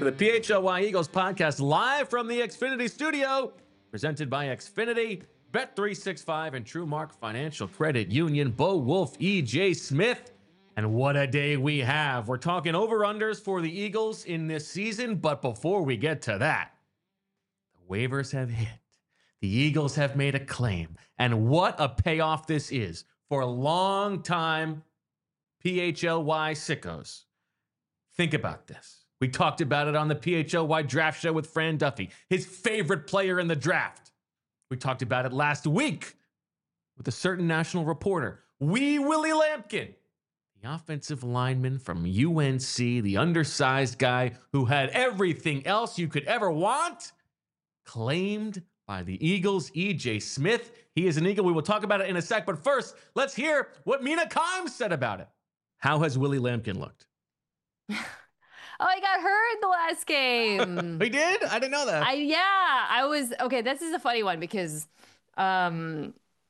to the PHLY Eagles podcast live from the Xfinity studio, presented by Xfinity, Bet365, and TrueMark Financial Credit Union. Bo Wolf, EJ Smith, and what a day we have. We're talking over-unders for the Eagles in this season, but before we get to that, the waivers have hit. The Eagles have made a claim, and what a payoff this is for a long-time PHLY sickos. Think about this. We talked about it on the PHLY draft show with Fran Duffy, his favorite player in the draft. We talked about it last week with a certain national reporter, Willie Lampkin, the offensive lineman from UNC, the undersized guy who had everything else you could ever want, claimed by the Eagles, EJ Smith. He is an Eagle. We will talk about it in a sec, but first, let's hear what Mina Kimes said about it. How has Willie Lampkin looked? Oh, he got hurt the last game. He did? I didn't know that. I was okay. This is a funny one because, I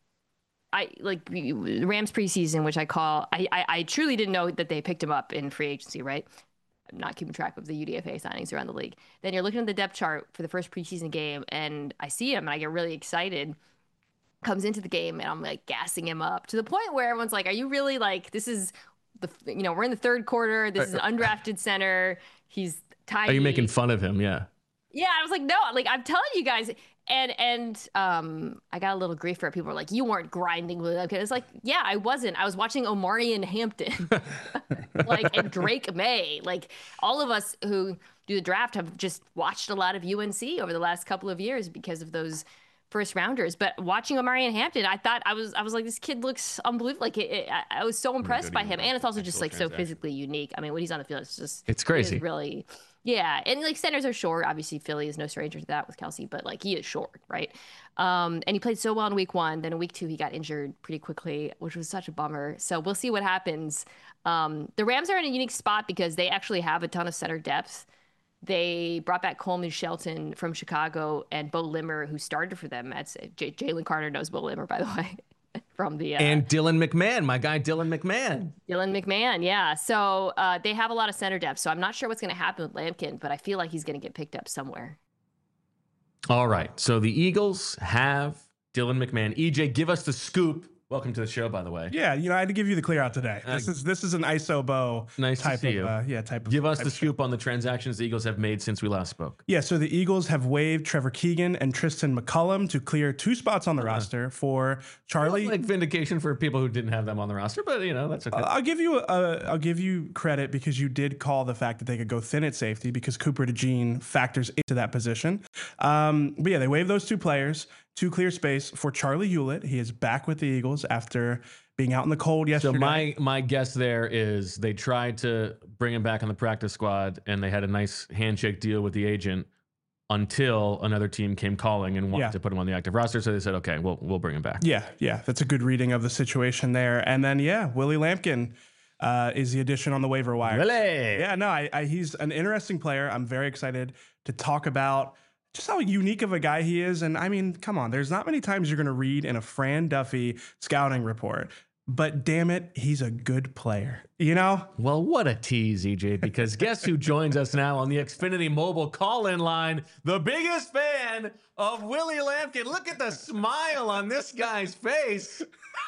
like Rams preseason, which I truly didn't know that they picked him up in free agency, right? I'm not keeping track of the UDFA signings around the league. Then you're looking at the depth chart for the first preseason game, and I see him, and I get really excited. Comes into the game, and I'm like gassing him up to the point where everyone's like, "Are you really like this is?" We're in the third quarter. This is an undrafted center. He's tiny. Are you making fun of him? Yeah. Yeah, I was like, no, like I'm telling you guys. And I got a little grief for it. People were like, you weren't grinding with him. It's like, yeah, I wasn't. I was watching Omarion Hampton, and Drake May. Like all of us who do the draft have just watched a lot of UNC over the last couple of years because of those first rounders. But watching Omarion Hampton, I thought I was like, this kid looks unbelievable. Like I was so impressed by him, and it's also just like so physically unique. I mean, when he's on the field, it's crazy. It's really, yeah. And like centers are short. Obviously, Philly is no stranger to that with Kelsey, but like he is short, right? And he played so well in week 1. Then in week 2, he got injured pretty quickly, which was such a bummer. So we'll see what happens. The Rams are in a unique spot because they actually have a ton of center depth. They brought back Coleman Shelton from Chicago and Bo Limmer, who started for them. Jalen Carter knows Bo Limmer, by the way, from the and Dylan McMahon, my guy Dylan McMahon. Dylan McMahon, yeah. So they have a lot of center depth. So I'm not sure what's going to happen with Lampkin, but I feel like he's going to get picked up somewhere. All right. So the Eagles have Dylan McMahon. EJ, give us the scoop. Welcome to the show, by the way. Yeah, I had to give you the clear out today. This is an ISO Bo nice type to see of you. Type of. Give us the scoop on the transactions the Eagles have made since we last spoke. Yeah, so the Eagles have waived Trevor Keegan and Tristan McCullum to clear 2 spots on the roster for Charlie. Like vindication for people who didn't have them on the roster, but that's okay. I'll give you credit because you did call the fact that they could go thin at safety because Cooper DeJean factors into that position. But yeah, they waived those 2 players to clear space for Charlie Hewlett. He is back with the Eagles after being out in the cold yesterday. So my guess there is they tried to bring him back on the practice squad, and they had a nice handshake deal with the agent until another team came calling and wanted to put him on the active roster. So they said, okay, we'll bring him back. Yeah, that's a good reading of the situation there. And then Willie Lampkin is the addition on the waiver wire. Really? Yeah, no, he's an interesting player. I'm very excited to talk about just how unique of a guy he is. And I mean, come on, there's not many times you're going to read in a Fran Duffy scouting report, but damn it, he's a good player, Well, what a tease, EJ, because guess who joins us now on the Xfinity Mobile call-in line? The biggest fan of Willie Lampkin. Look at the smile on this guy's face.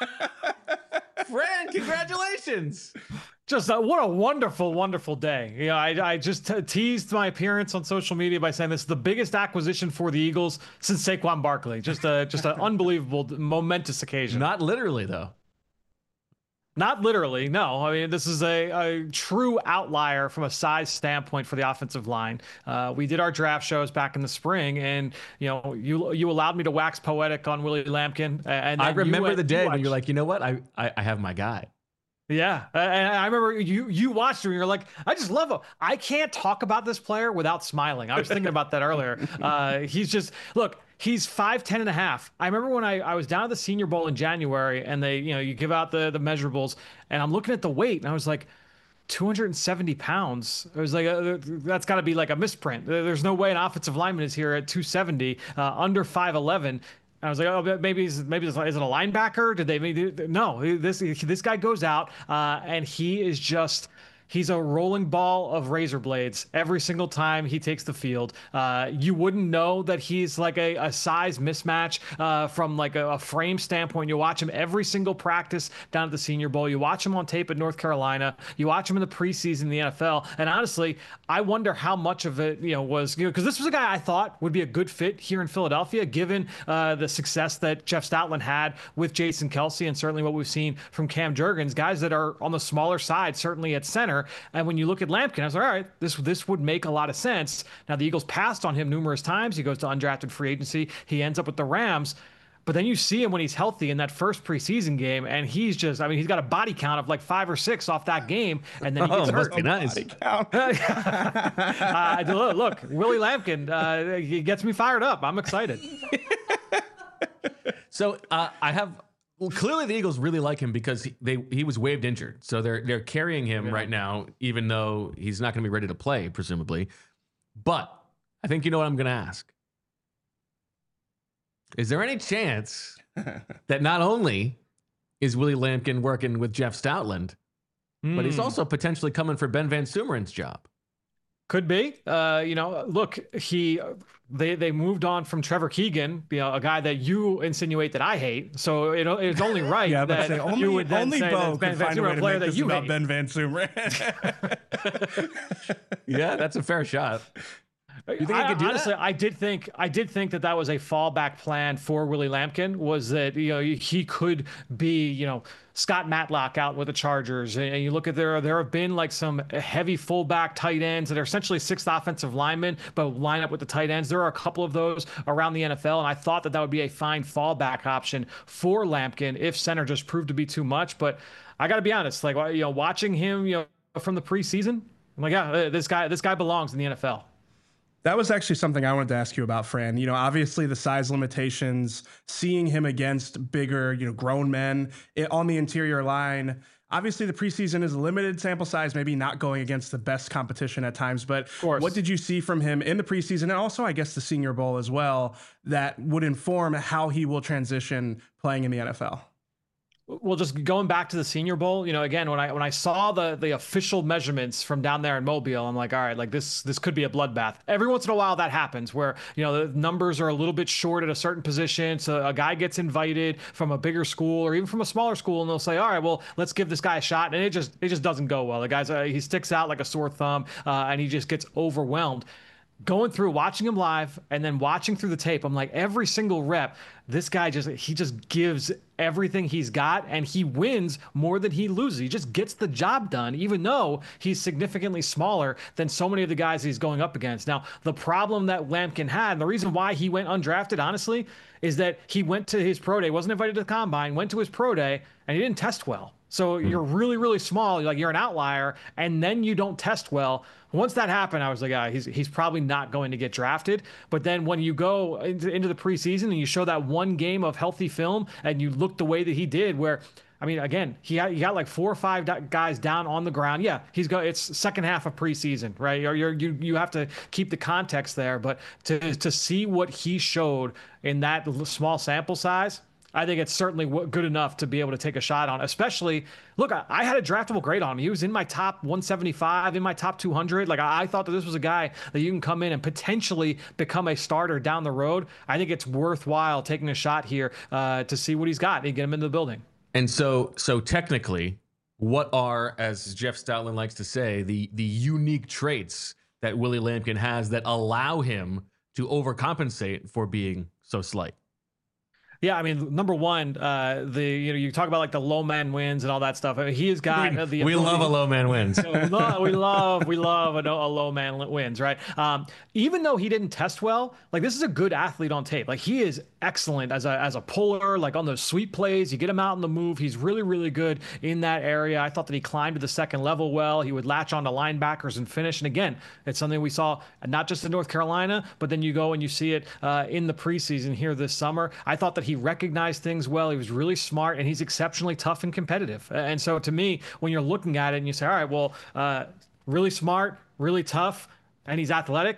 Fran, congratulations. Just what a wonderful, wonderful day. I just teased my appearance on social media by saying this is the biggest acquisition for the Eagles since Saquon Barkley. Just an unbelievable, momentous occasion. Not literally, though. Not literally, no. I mean, this is a true outlier from a size standpoint for the offensive line. We did our draft shows back in the spring, and you allowed me to wax poetic on Willie Lampkin. And I remember the day when you're like, you know what? I have my guy. Yeah, and I remember you watched him and you're like, I just love him. I can't talk about this player without smiling. I was thinking about that earlier. He's 5'10" and a half. I remember when I was down at the Senior Bowl in January and they, you give out the measurables and I'm looking at the weight and I was like, 270 pounds. It was like, that's got to be like a misprint. There's no way an offensive lineman is here at 270, under 5'11". I was like, oh, maybe is it a linebacker? Did they? No, this guy goes out and he is just He's a rolling ball of razor blades every single time he takes the field. You wouldn't know that he's like a size mismatch from like a frame standpoint. You watch him every single practice down at the Senior Bowl. You watch him on tape at North Carolina. You watch him in the preseason in the NFL. And honestly, I wonder how much of it, was, because this was a guy I thought would be a good fit here in Philadelphia, given the success that Jeff Stoutland had with Jason Kelce, and certainly what we've seen from Cam Jurgens, guys that are on the smaller side, certainly at center. And when you look at Lampkin, I was like, all right, this would make a lot of sense. Now, the Eagles passed on him numerous times. He goes to undrafted free agency. He ends up with the Rams. But then you see him when he's healthy in that first preseason game, and he's just, I mean, he's got a body count of like 5 or 6 off that game, and then he gets hurt. Must be nice. Look, Willie Lampkin, he gets me fired up. I'm excited. So clearly the Eagles really like him because he was waived injured. So they're carrying him right now, even though he's not going to be ready to play, presumably. But I think you know what I'm going to ask. Is there any chance that not only is Willie Lampkin working with Jeff Stoutland, but he's also potentially coming for Ben Van Sumeren's job? Could be. Look, they moved on from Trevor Keegan, a guy that you insinuate that I hate. So it's only right that you would then say that Ben Van Sumeren, a player that you hate. Ben Van Sumeren. Yeah, that's a fair shot. You think he could do honestly, that? I did think that was a fallback plan for Willie Lampkin, was that he could be Scott Matlock out with the Chargers, and you look at there have been like some heavy fullback tight ends that are essentially 6th offensive linemen, but line up with the tight ends. There are a couple of those around the NFL, and I thought that would be a fine fallback option for Lampkin if center just proved to be too much. But I got to be honest, like watching him from the preseason, I'm like, yeah, this guy belongs in the NFL. That was actually something I wanted to ask you about, Fran. Obviously the size limitations, seeing him against bigger, grown men on the interior line. Obviously the preseason is a limited sample size, maybe not going against the best competition at times, but what did you see from him in the preseason, and also I guess the Senior Bowl as well, that would inform how he will transition playing in the NFL? Well, just going back to the Senior Bowl, again, when I saw the official measurements from down there in Mobile, I'm like, all right, like this could be a bloodbath. Every once in a while that happens where, the numbers are a little bit short at a certain position. So a guy gets invited from a bigger school or even from a smaller school, and they'll say, all right, well, let's give this guy a shot. And it just doesn't go well. The guy's, he sticks out like a sore thumb, and he just gets overwhelmed. Going through, watching him live, and then watching through the tape, I'm like, every single rep, this guy just gives everything he's got, and he wins more than he loses. He just gets the job done, even though he's significantly smaller than so many of the guys he's going up against. Now, the problem that Lampkin had, and the reason why he went undrafted, honestly, is that he went to his pro day, wasn't invited to the combine, went to his pro day, and he didn't test well. So you're really, really small, like you're an outlier, and then you don't test well. Once that happened, I was like, he's probably not going to get drafted. But then when you go into the preseason and you show that one game of healthy film and you look the way that he did, where, I mean, again, he got like 4 or 5 guys down on the ground. Yeah, it's second half of preseason, right? You have to keep the context there. But to see what he showed in that small sample size, I think it's certainly good enough to be able to take a shot on, especially, look, I had a draftable grade on him. He was in my top 175, in my top 200. Like, I thought that this was a guy that you can come in and potentially become a starter down the road. I think it's worthwhile taking a shot here to see what he's got and get him into the building. And so technically, what are, as Jeff Stoutland likes to say, the unique traits that Willie Lampkin has that allow him to overcompensate for being so slight? Yeah, I mean, number one, you talk about like the low man wins and all that stuff. I mean, he has got we love a low man wins. we love a low man wins, right? Even though he didn't test well, like this is a good athlete on tape. Like he is excellent as a puller, like on those sweep plays. You get him out in the move. He's really, really good in that area. I thought that he climbed to the second level well. He would latch onto linebackers and finish. And again, it's something we saw not just in North Carolina, but then you go and you see it in the preseason here this summer. I thought that he recognized things well. He was really smart, and he's exceptionally tough and competitive. And so to me, when you're looking at it and you say, all right, well, really smart, really tough, and he's athletic,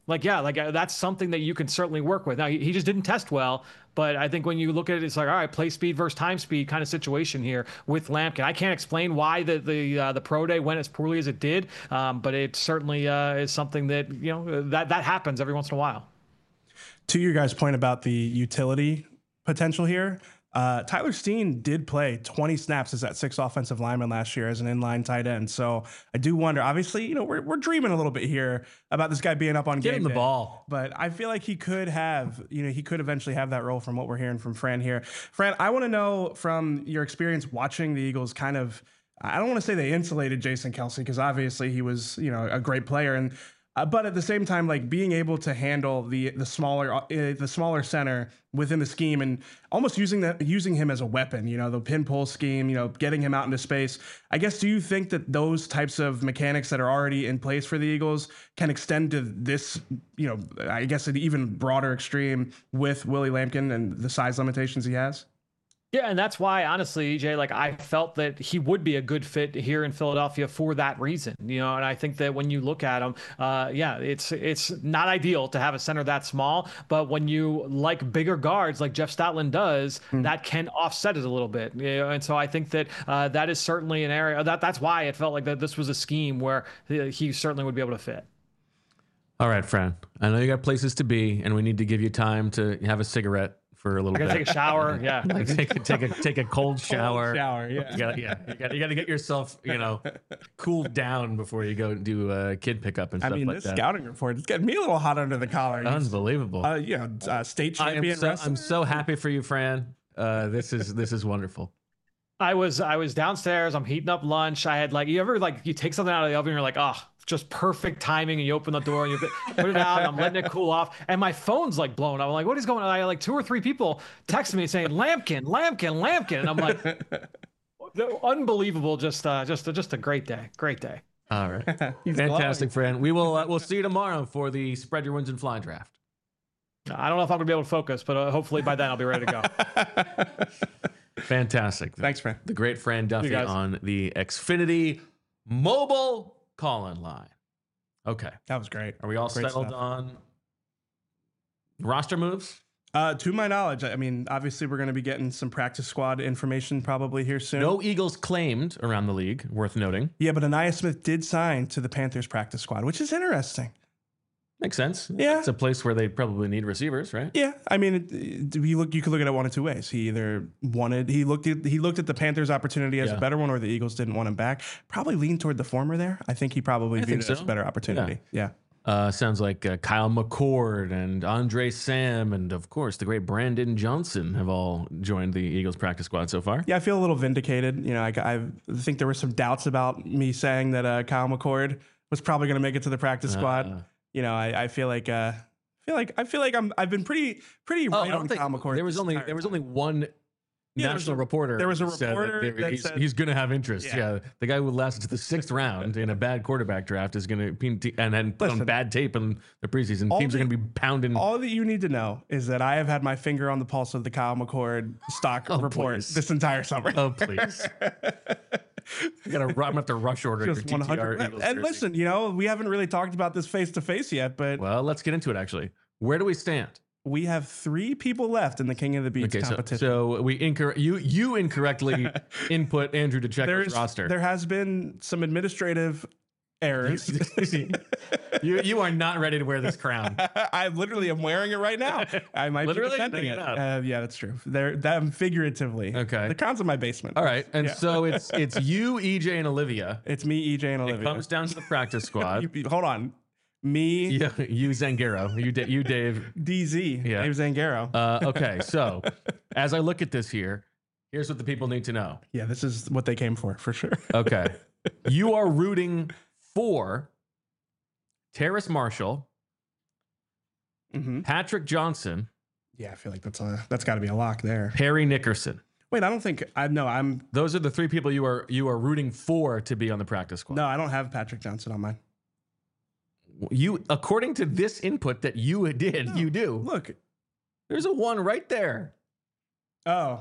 Like, yeah, like that's something that you can certainly work with. Now, he just didn't test well, but I think when you look at it, it's like, all right, play speed versus time speed kind of situation here with Lampkin. I can't explain why the pro day went as poorly as it did, but it certainly is something that, you know, that happens every once in a while. To your guys' point about the utility potential here, Tyler Steen did play 20 snaps as that 6th offensive lineman last year as an inline tight end. So I do wonder, obviously, you know, we're dreaming a little bit here about this guy being up on Give game him the day, ball. but I feel like he could have, you know, he could eventually have that role from what we're hearing from Fran here. Fran, I want to know from your experience watching the Eagles kind of, I don't want to say they insulated Jason Kelce because obviously he was, you know, a great player, and but at the same time, like being able to handle the smaller center within the scheme and almost using him as a weapon, you know, the pin pull scheme, you know, getting him out into space. I guess, do you think that those types of mechanics that are already in place for the Eagles can extend to this, you know, I guess an even broader extreme with Willie Lampkin and the size limitations he has? Yeah, and that's why, honestly, EJ, like I felt that he would be a good fit here in Philadelphia for that reason, you know. And I think that when you look at him, yeah, it's not ideal to have a center that small, but when you like bigger guards like Jeff Stoutland does, that can offset it a little bit, you know. And so I think that that is certainly an area that's why it felt like that this was a scheme where he certainly would be able to fit. All right, Fran. I know you got places to be, and we need to give you time to have a cigarette for a little bit. Take a shower. Yeah. Like take a cold shower. Shower, yeah. You got to get yourself, you know, cooled down before you go do kid pickup and stuff like that. I mean, this scouting report, it's getting me a little hot under the collar. Unbelievable. You know, state champion. I'm so happy for you, Fran. This is wonderful. I was downstairs. I'm heating up lunch. I had like, you ever like you take something out of the oven and you're like, oh, just perfect timing, and you open the door and you put it out, and I'm letting it cool off, and my phone's like blown up. I'm like, what is going on? I had like 2 or 3 people texting me saying Lampkin, and I'm like, unbelievable. Just a great day. All right. Fantastic, Fran. We'll see you tomorrow for the Spread Your Wins and Fly draft. I don't know if I'm gonna be able to focus, but hopefully by then I'll be ready to go. Fantastic. Thanks, Fran. The great Fran Duffy on the Xfinity mobile call-in line. Okay. That was great. Are we all Great settled stuff. on roster moves? To my knowledge, I mean, obviously we're going to be getting some practice squad information probably here soon. No Eagles claimed around the league, worth noting. Yeah, but Anaya Smith did sign to the Panthers practice squad, which is interesting. Makes sense. Yeah. It's a place where they probably need receivers, right? Yeah, I mean, you could look at it one of two ways. He either he looked at the Panthers' opportunity as a better one, or the Eagles didn't want him back. Probably leaned toward the former there. I think he probably viewed it as a better opportunity. Yeah. Sounds like Kyle McCord and Andre Sam and, of course, the great Brandon Johnson have all joined the Eagles practice squad so far. Yeah, I feel a little vindicated. You know, I think there were some doubts about me saying that Kyle McCord was probably going to make it to the practice squad. You know, I feel like I've been pretty right on Kyle McCord. There was only one national reporter. There was a reporter that said he's going to have interest. Yeah, the guy who lasted to the 6th round in a bad quarterback draft is going to and then put on bad tape in the preseason. Teams are going to be pounding. All that you need to know is that I have had my finger on the pulse of the Kyle McCord stock report this entire summer. Oh please. I'm gonna have to rush order your TTR Eagles And jersey. listen, you know, we haven't really talked about this face to face yet, but well, let's get into it. Actually, where do we stand? We have 3 people left in the King of the Beats competition. So we you incorrectly input Andrew to check his roster. There has been some administrative errors. You are not ready to wear this crown. I literally am wearing it right now. I might Literally? be defending No, it. Yeah, that's true. That figuratively. Okay. The crown's in my basement. All right, and so it's you, EJ, and Olivia. It's me, EJ, and Olivia. It comes down to the practice squad. Hold on. Me. Yeah, you Zangaro. You Dave. DZ. Yeah. Dave Zangaro. Okay, so as I look at this here, here's what the people need to know. Yeah, this is what they came for sure. Okay. You are rooting for Terrace Marshall, Patrick Johnson. Yeah, I feel like that's got to be a lock there. Perry Nickerson. Wait, I don't think I'm. Those are the 3 people you are rooting for to be on the practice squad. No, I don't have Patrick Johnson on mine. You, according to this input that you did, you do. Look, there's a 1 right there. Oh,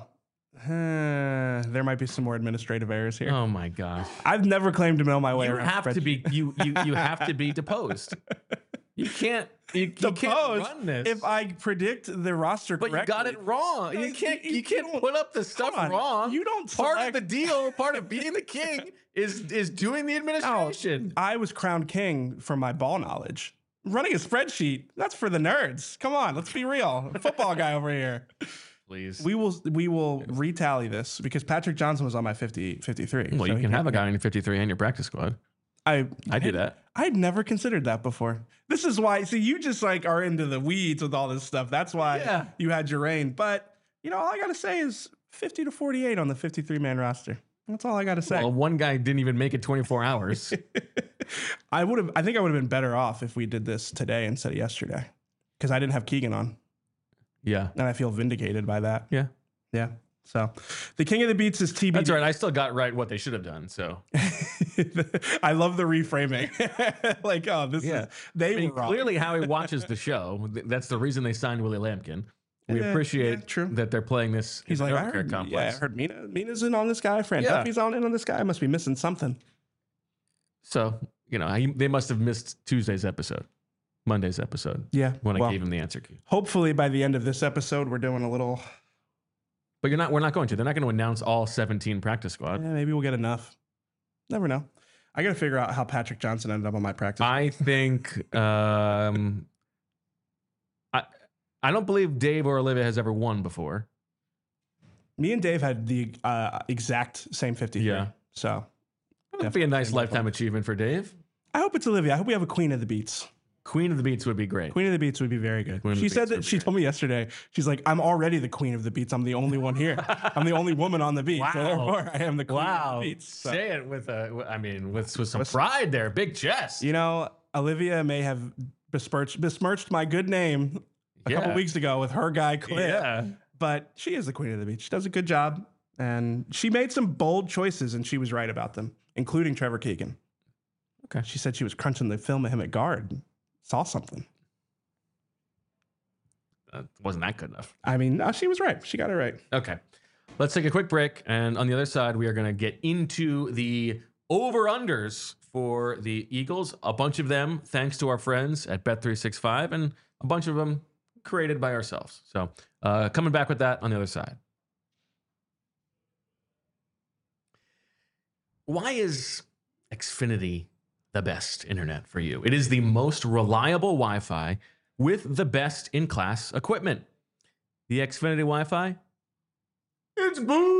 there might be some more administrative errors here. Oh my gosh! I've never claimed to know my way You around. have to be you have to be deposed. You can't. You The can't pose, run this. if I predict the roster But correctly. you got it wrong. You can't. You can't don't- put up the stuff on. wrong. You don't Part of select- the deal. Part of being the king is doing the administration. I was crowned king for my ball knowledge. Running a spreadsheet, that's for the nerds. Come on, let's be real. Football guy over here. Please. We will retally this because Patrick Johnson was on my 53. Well, so you he can have a guy in your 53 and your practice squad. I do that. I'd never considered that before. This is why. See, you just like are into the weeds with all this stuff. That's why you had your reign. But all I gotta say is 50 to 48 on the 53-man roster. That's all I gotta say. Well, one guy didn't even make it 24 hours. I think I would have been better off if we did this today instead of yesterday, because I didn't have Keegan on, Yeah. and I feel vindicated by that. Yeah. Yeah. So, the king of the beats is TBD. That's right. I still got right what they should have done. So I love the reframing. Like, oh, this is they were wrong. clearly Howie watches the show. That's the reason they signed Willie Lampkin. We appreciate true. that they're playing this. He's in like, the I Evercare heard, complex. I heard Mina's in on this guy. Fran Yeah. Duffy's in on this guy. I must be missing something. So they must have missed Tuesday's episode, Monday's episode. Yeah. When I well, gave him the answer key. hopefully by the end of this episode, we're doing a little. But we're not going to. They're not going to announce all 17 practice squad. Maybe we'll get enough. Never know. I got to figure out how Patrick Johnson ended up on my practice. I think I don't believe Dave or Olivia has ever won before. Me and Dave had the exact same 53. Yeah. So That would be a nice lifetime achievement for Dave. I hope it's Olivia. I hope we have a queen of the beats. Queen of the Beats would be great. Queen of the beats would be very good. Queen of the She said Beats would that be she great. told me yesterday. She's like, I'm already the queen of the beats. I'm the only one here. I'm the only woman on the beat. So Wow. therefore, I am the queen Wow. of the beats. So, Say it with some pride there. Big chest. Olivia may have besmirched my good name a couple weeks ago with her guy Cliff. Yeah. But she is the queen of the beat. She does a good job. And she made some bold choices, and she was right about them, including Trevor Keegan. Okay. She said she was crunching the film of him at guard. Saw something. Wasn't that good enough? I mean, no, she was right. She got it right. Okay. Let's take a quick break. And on the other side, we are going to get into the over-unders for the Eagles. A bunch of them, thanks to our friends at Bet365, and a bunch of them created by ourselves. So coming back with that on the other side. Why is Xfinity the best internet for you? It is the most reliable Wi-Fi with the best in-class equipment. The Xfinity Wi-Fi, it's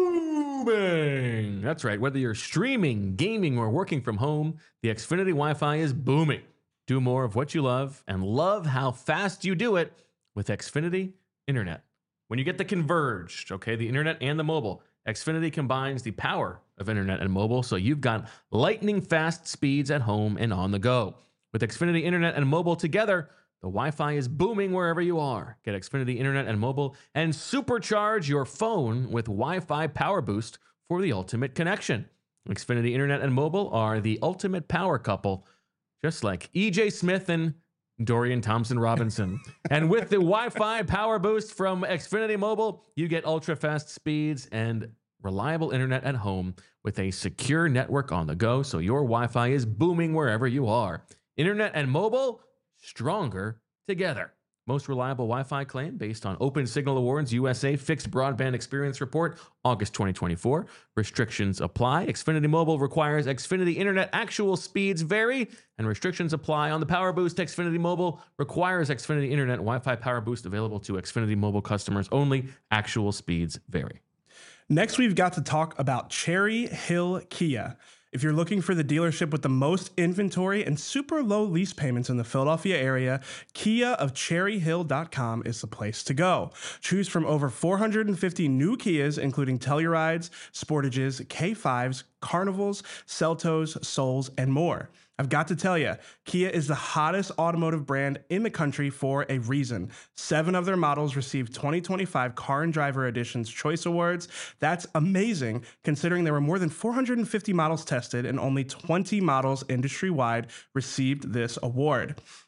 booming. That's right. Whether you're streaming, gaming, or working from home, the Xfinity Wi-Fi is booming. Do more of what you love and love how fast you do it with Xfinity Internet. When you get the converged, the internet and the mobile, Xfinity combines the power of internet and mobile, so you've got lightning fast speeds at home and on the go. With Xfinity Internet and mobile together, the Wi-Fi is booming wherever you are. Get Xfinity Internet and mobile and supercharge your phone with Wi-Fi Power Boost for the ultimate connection. Xfinity Internet and mobile are the ultimate power couple, just like EJ Smith and Dorian Thompson-Robinson. And with the Wi-Fi Power Boost from Xfinity Mobile, you get ultra-fast speeds and reliable internet at home with a secure network on the go, so your Wi-Fi is booming wherever you are. Internet and mobile, stronger together. Most reliable Wi-Fi claim based on Open Signal Awards USA Fixed Broadband Experience Report, August 2024. Restrictions apply. Xfinity Mobile requires Xfinity Internet actual speeds vary, and restrictions apply on the Power Boost. Xfinity Mobile requires Xfinity Internet Wi-Fi Power Boost available to Xfinity Mobile customers only. Actual speeds vary. Next, we've got to talk about Cherry Hill Kia. If you're looking for the dealership with the most inventory and super low lease payments in the Philadelphia area, Kia of CherryHill.com is the place to go. Choose from over 450 new Kias, including Tellurides, Sportages, K5s, Carnivals, Celtos, Souls, and more. I've got to tell you, Kia is the hottest automotive brand in the country for a reason. 7 of their models received 2025 Car and Driver Edition's Choice Awards. That's amazing, considering there were more than 450 models tested and only 20 models industry-wide received this award.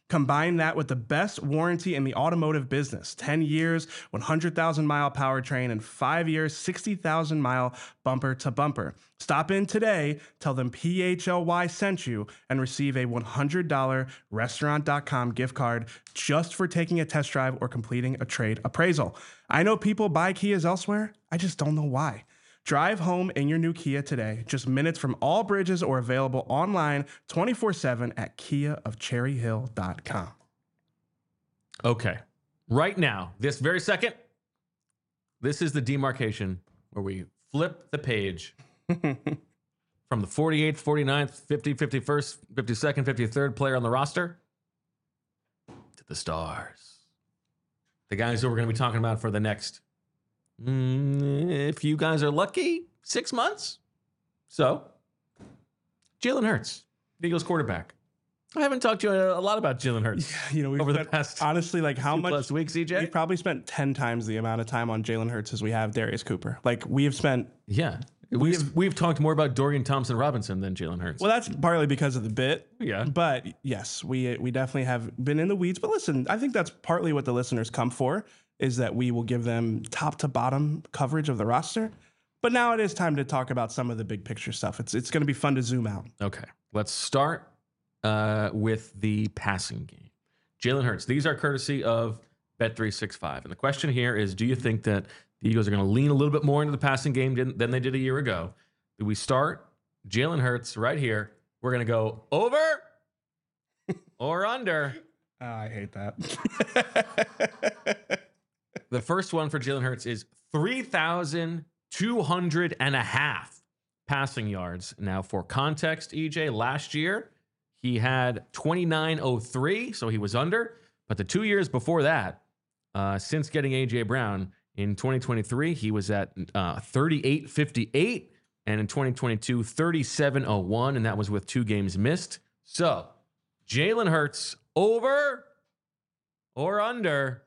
Combine that with the best warranty in the automotive business, 10 years, 100,000-mile powertrain, and 5 years, 60,000-mile bumper to bumper. Stop in today, tell them PHLY sent you, and receive a $100 restaurant.com gift card just for taking a test drive or completing a trade appraisal. I know people buy Kias elsewhere. I just don't know why. Drive home in your new Kia today, just minutes from all bridges or available online 24/7 at kiaofcherryhill.com. Okay. Right now, this very second, this is the demarcation where we flip the page from the 48th, 49th, 50, 51st, 52nd, 53rd player on the roster to the stars. The guys who we're going to be talking about for the next, if you guys are lucky, 6 months. So, Jalen Hurts, the Eagles quarterback. I haven't talked to you a lot about Jalen Hurts We've over the spent, past honestly, like how much plus weeks, EJ? We've probably spent 10 times the amount of time on Jalen Hurts as we have Darius Cooper. Like we have spent. Yeah. We've talked more about Dorian Thompson-Robinson than Jalen Hurts. Well, that's partly because of the bit. Yeah. But yes, we definitely have been in the weeds. But listen, I think that's partly what the listeners come for, is that we will give them top to bottom coverage of the roster. But now it is time to talk about some of the big picture stuff. It's going to be fun to zoom out. Okay. Let's start with the passing game. Jalen Hurts. These are courtesy of Bet365. And the question here is, do you think that the Eagles are going to lean a little bit more into the passing game than they did a year ago? Do we start Jalen Hurts right here? We're going to go over or under. Oh, I hate that. The first one for Jalen Hurts is 3,200.5 passing yards. Now, for context, EJ, last year he had 2,903, so he was under. But the 2 years before that, since getting A.J. Brown in 2023, he was at 3,858, and in 2022, 3,701, and that was with 2 games missed. So, Jalen Hurts over or under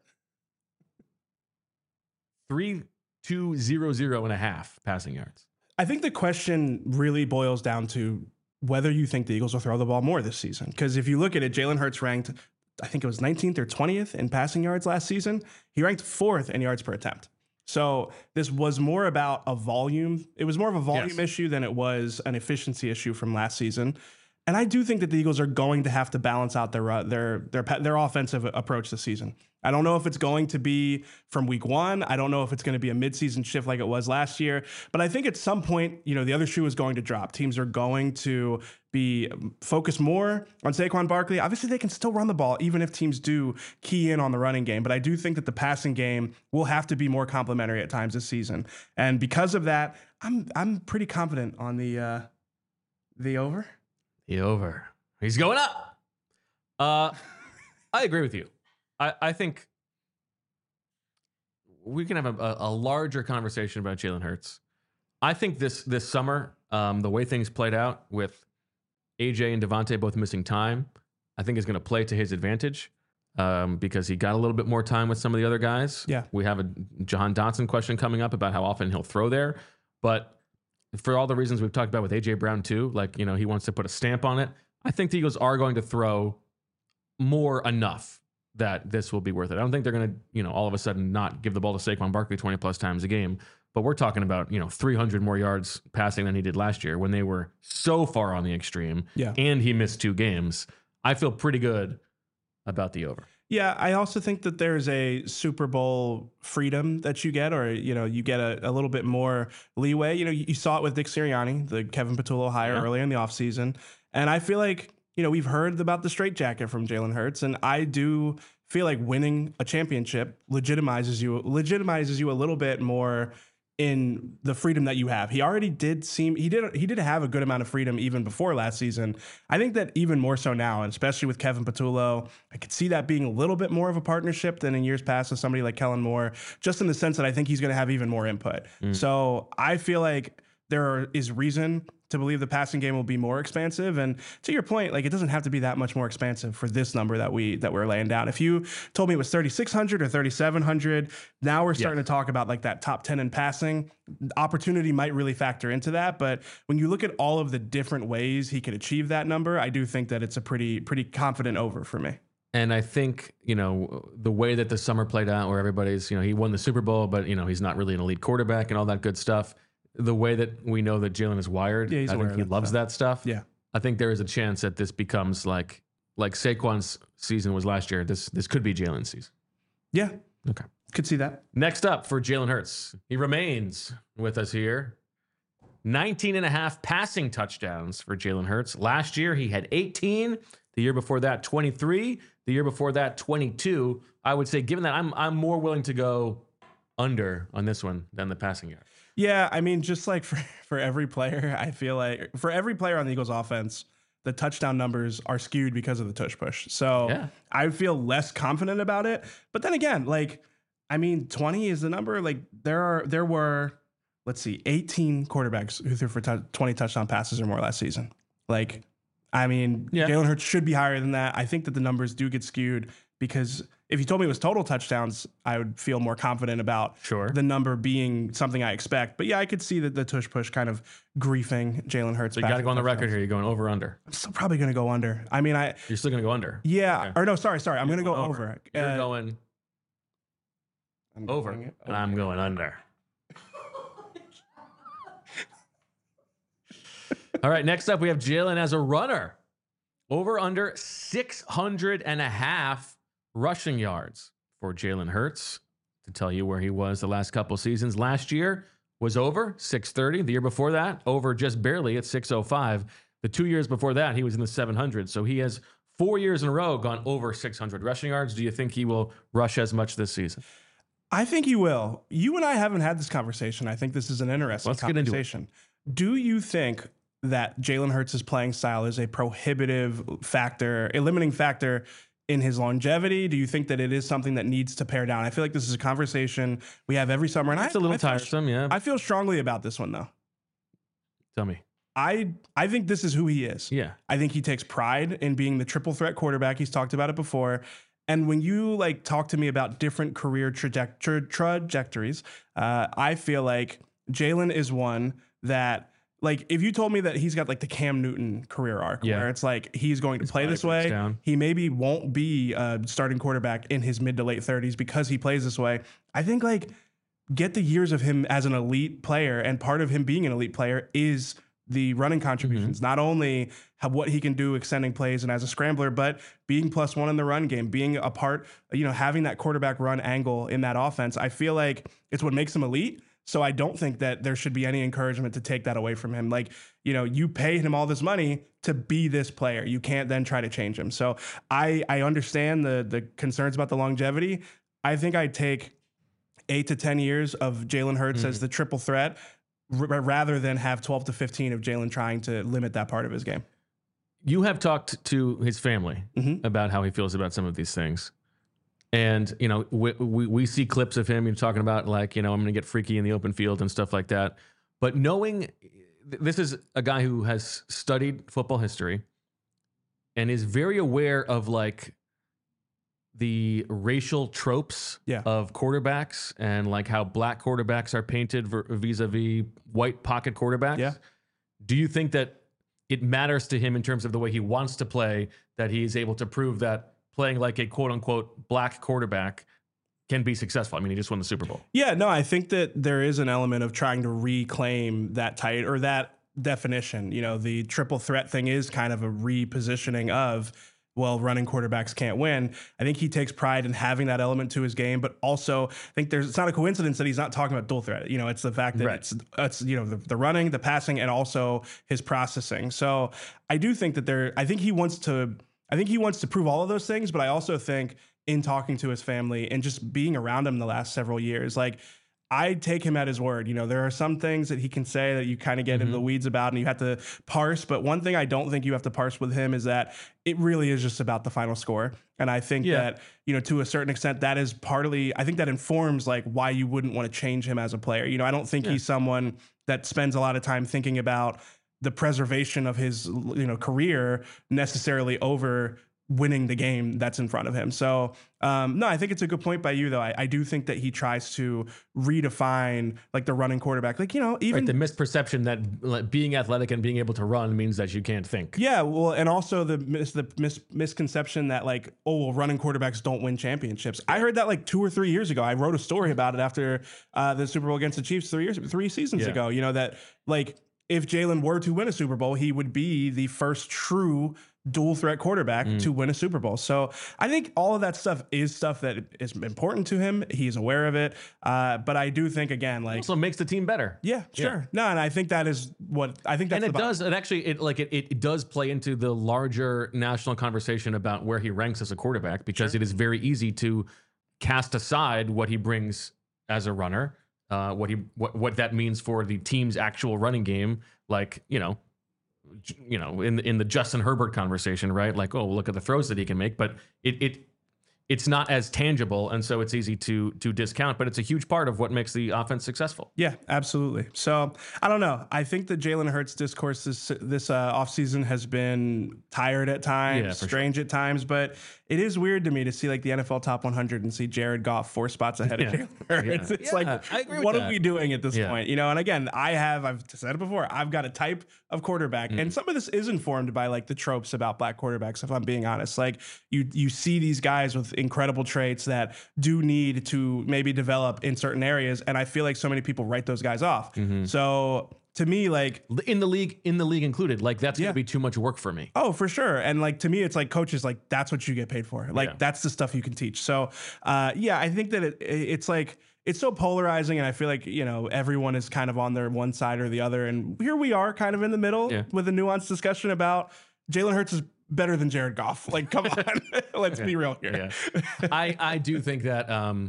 3,200.5 passing yards. I think the question really boils down to whether you think the Eagles will throw the ball more this season. Because if you look at it, Jalen Hurts ranked, I think it was 19th or 20th in passing yards last season. He ranked 4th in yards per attempt. So this was more about a volume. It was more of a volume issue than it was an efficiency issue from last season. And I do think that the Eagles are going to have to balance out their offensive approach this season. I don't know if it's going to be from week one. I don't know if it's going to be a midseason shift like it was last year. But I think at some point, the other shoe is going to drop. Teams are going to be focused more on Saquon Barkley. Obviously, they can still run the ball, even if teams do key in on the running game. But I do think that the passing game will have to be more complementary at times this season. And because of that, I'm pretty confident on the over. The over. He's going up. I agree with you. I think we can have a larger conversation about Jalen Hurts. I think this summer, the way things played out with AJ and Devontae both missing time, I think is going to play to his advantage because he got a little bit more time with some of the other guys. Yeah. We have a Jahan Dotson question coming up about how often he'll throw there. But for all the reasons we've talked about with AJ Brown too, he wants to put a stamp on it. I think the Eagles are going to throw more enough that this will be worth it. I don't think they're going to, all of a sudden not give the ball to Saquon Barkley 20 plus times a game, but we're talking about, 300 more yards passing than he did last year when they were so far on the extreme. Yeah. And he missed 2 games. I feel pretty good about the over. Yeah, I also think that there's a Super Bowl freedom that you get, or, you get a little bit more leeway. You saw it with Nick Sirianni, the Kevin Patullo hire earlier in the offseason. And I feel like, we've heard about the straitjacket from Jalen Hurts, and I do feel like winning a championship legitimizes you a little bit more in the freedom that you have. He already did have a good amount of freedom even before last season. I think that even more so now, and especially with Kevin Patullo, I could see that being a little bit more of a partnership than in years past with somebody like Kellen Moore, just in the sense that I think he's going to have even more input. So I feel like there is reason to believe the passing game will be more expansive. And to your point, it doesn't have to be that much more expansive for this number that we're laying down. If you told me it was 3,600 or 3,700, now we're starting to talk about that top 10 in passing. Opportunity might really factor into that. But when you look at all of the different ways he could achieve that number, I do think that it's a pretty confident over for me. And I think, the way that the summer played out where everybody's, he won the Super Bowl, but, he's not really an elite quarterback and all that good stuff. The way that we know that Jalen is wired, Yeah, he's I aware think of he that loves stuff. that stuff. Yeah. I think there is a chance that this becomes like Saquon's season was last year. This could be Jalen's season. Yeah. Okay. Could see that. Next up for Jalen Hurts. He remains with us here. 19 and a half passing touchdowns for Jalen Hurts. Last year, he had 18. The year before that, 23. The year before that, 22. I would say, given that, I'm more willing to go under on this one than the passing yard. Yeah, I mean, just like for every player, I feel like for every player on the Eagles offense, the touchdown numbers are skewed because of the tush push. So Yeah. I feel less confident about it. But then again, 20 is the number. Like there were, let's see, 18 quarterbacks who threw for 20 touchdown passes or more last season. Yeah. Jalen Hurts should be higher than that. I think that the numbers do get skewed because if you told me it was total touchdowns, I would feel more confident about the number being something I expect. But yeah, I could see that the tush push kind of griefing Jalen Hurts. So you got to go on the record here. You're going over under. I'm still probably going to go under. I mean, You're still going to go under. yeah. Okay. Or no, sorry. I'm going to go over. You're going I'm over, going and I'm going under. All right, next up, we have Jalen as a runner. Over under 600 and a half rushing yards for Jalen Hurts. To tell you where he was the last couple seasons. Last year was over 630. The year before that, over just barely at 605. The 2 years before that, he was in the 700s. So he has 4 years in a row gone over 600 rushing yards. Do you think he will rush as much this season? I think he will. You and I haven't had this conversation. I think this is an interesting conversation. Do you think that Jalen Hurts' playing style is a prohibitive factor, a limiting factor in his longevity? Do you think that it is something that needs to pare down? I feel like this is a conversation we have every summer. And It's a little tiresome, yeah. I feel strongly about this one, though. Tell me. I think this is who he is. Yeah. I think he takes pride in being the triple threat quarterback. He's talked about it before. And when you talk to me about different career trajectories, I feel like Jalen is one that, if you told me that he's got the Cam Newton career arc, where it's he's going to play this way, he maybe won't be a starting quarterback in his mid to late 30s because he plays this way. I think get the years of him as an elite player, and part of him being an elite player is the running contributions, not only what he can do extending plays and as a scrambler, but being +1 in the run game, being a part, having that quarterback run angle in that offense. I feel like it's what makes him elite. So I don't think that there should be any encouragement to take that away from him. You pay him all this money to be this player. You can't then try to change him. So I understand the concerns about the longevity. I think I'd take 8 to 10 years of Jalen Hurts as the triple threat rather than have 12 to 15 of Jalen trying to limit that part of his game. You have talked to his family about how he feels about some of these things. And, we see clips of him talking about I'm going to get freaky in the open field and stuff like that. But knowing this is a guy who has studied football history and is very aware of the racial tropes of quarterbacks and how black quarterbacks are painted vis-a-vis white pocket quarterbacks. Yeah. Do you think that it matters to him in terms of the way he wants to play, that he's able to prove that playing like a quote unquote black quarterback can be successful? I mean, he just won the Super Bowl. Yeah, no, I think that there is an element of trying to reclaim that tight or that definition. The triple threat thing is kind of a repositioning of, running quarterbacks can't win. I think he takes pride in having that element to his game, but also I think it's not a coincidence that he's not talking about dual threat. It's the fact that it's the running, the passing, and also his processing. So I do think that I think he wants to prove all of those things, but I also think in talking to his family and just being around him the last several years, I take him at his word. There are some things that he can say that you kind of get into the weeds about and you have to parse. But one thing I don't think you have to parse with him is that it really is just about the final score. And I think that, to a certain extent, that is partly, I think that informs why you wouldn't want to change him as a player. I don't think he's someone that spends a lot of time thinking about the preservation of his, career necessarily over winning the game that's in front of him. So no, I think it's a good point by you though. I do think that he tries to redefine like the running quarterback. Like, even the misperception that like, being athletic and being able to run means that you can't think. Yeah, well, and also the misconception that like, oh, well, running quarterbacks don't win championships. I heard that like 2 or 3 years ago. I wrote a story about it after the Super Bowl against the Chiefs 3 seasons ago. That like if Jalen were to win a Super Bowl, he would be the first true dual threat quarterback to win a Super Bowl. So I think all of that stuff is stuff that is important to him. He's aware of it. But I do think again, like, also makes the team better. Yeah, sure. No, and I think that is what I think that's and it does play into the larger national conversation about where he ranks as a quarterback, because it is very easy to cast aside what he brings as a runner, what that means for the team's actual running game, like, in the Justin Herbert conversation, right? Like, oh, look at the throws that he can make, but it's not as tangible, and so it's easy to discount, but it's a huge part of what makes the offense successful. Yeah, absolutely. So I don't know. I think the Jalen Hurts discourse this offseason has been tired at times, strange at times, but it is weird to me to see like the NFL top 100 and see Jared Goff 4 spots ahead of Jalen Hurts. It's like, what are we doing at this point? And again, I've said it before, I've got a type of quarterback, and some of this is informed by like the tropes about black quarterbacks, if I'm being honest. Like you see these guys with incredible traits that do need to maybe develop in certain areas, and I feel like so many people write those guys off. So to me, like in the league included, like that's gonna be too much work for me. Oh, for sure. And like to me, it's like coaches, like that's what you get paid for. Like that's the stuff you can teach. So I think that it's like it's so polarizing, and I feel like everyone is kind of on their one side or the other, and here we are kind of in the middle with a nuanced discussion about Jalen Hurts is better than Jared Goff. Like, come on, let's be real here. I do think that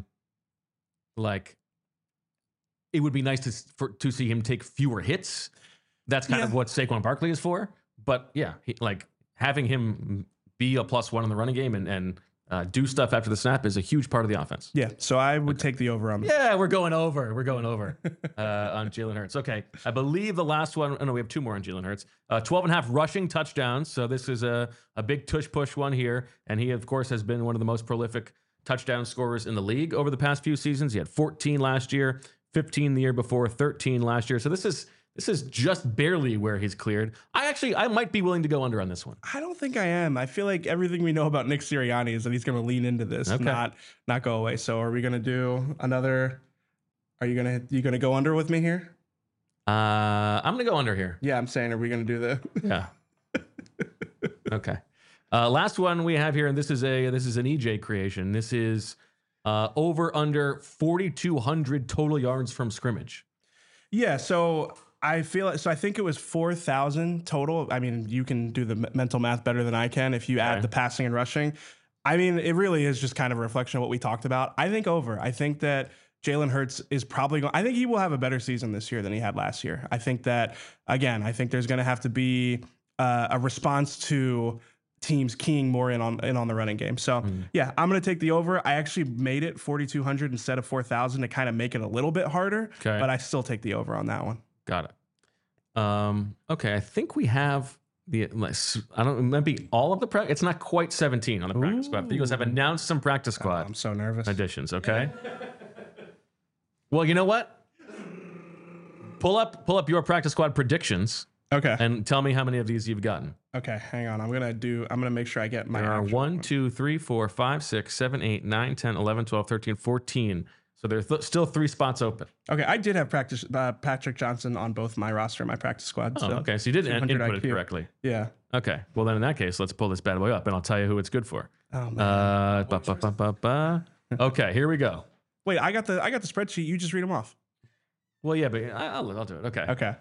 like it would be nice to see him take fewer hits. That's kind of what Saquon Barkley is for. But having him be a +1 in the running game and do stuff after the snap is a huge part of the offense. Yeah, so I would take the over on that. Yeah, we're going over. We're going over on Jalen Hurts. Okay, I believe the last one, we have 2 more on Jalen Hurts. 12.5 rushing touchdowns. So this is a big tush-push one here. And he, of course, has been one of the most prolific touchdown scorers in the league over the past few seasons. He had 14 last year, 15 the year before, 13 last year. So this is just barely where he's cleared. I might be willing to go under on this one. I don't think I am. I feel like everything we know about Nick Sirianni is that he's going to lean into this, not go away. So are we going to do another? Are you going to go under with me here? I'm going to go under here. Yeah, I'm saying, are we going to do the? Yeah. Okay. Last one we have here, and this is an EJ creation. This is over under 4,200 total yards from scrimmage. Yeah. So I think it was 4,000 total. I mean, you can do the mental math better than I can if you add the passing and rushing. I mean, it really is just kind of a reflection of what we talked about. I think over. I think that Jalen Hurts is probably going. I think he will have a better season this year than he had last year. I think that again. I think there's going to have to be a response to teams keying more in on the running game. So yeah, I'm going to take the over. I actually made it 4,200 instead of 4,000 to kind of make it a little bit harder. Okay. But I still take the over on that one. Got it. Okay, I think we have maybe all of the practice. It's not quite 17 on the practice squad. The Eagles have announced some practice squad. I'm so nervous. Additions. Okay. Well, you know what? Pull up your practice squad predictions. Okay. And tell me how many of these you've gotten. Okay, hang on. I'm gonna make sure I get my. There are 1, 2, 3, 4, 5, 6, 7, 8, 9, 10, 11, 12, 13, 14. So there's still 3 spots open. Okay, I did have Patrick Johnson on both my roster and my practice squad. Oh, okay. So you did input it correctly. Yeah. Okay. Well, then in that case, let's pull this bad boy up, and I'll tell you who it's good for. Oh man. Okay, here we go. Wait, I got the spreadsheet. You just read them off. Well, yeah, but I'll do it. Okay. Okay.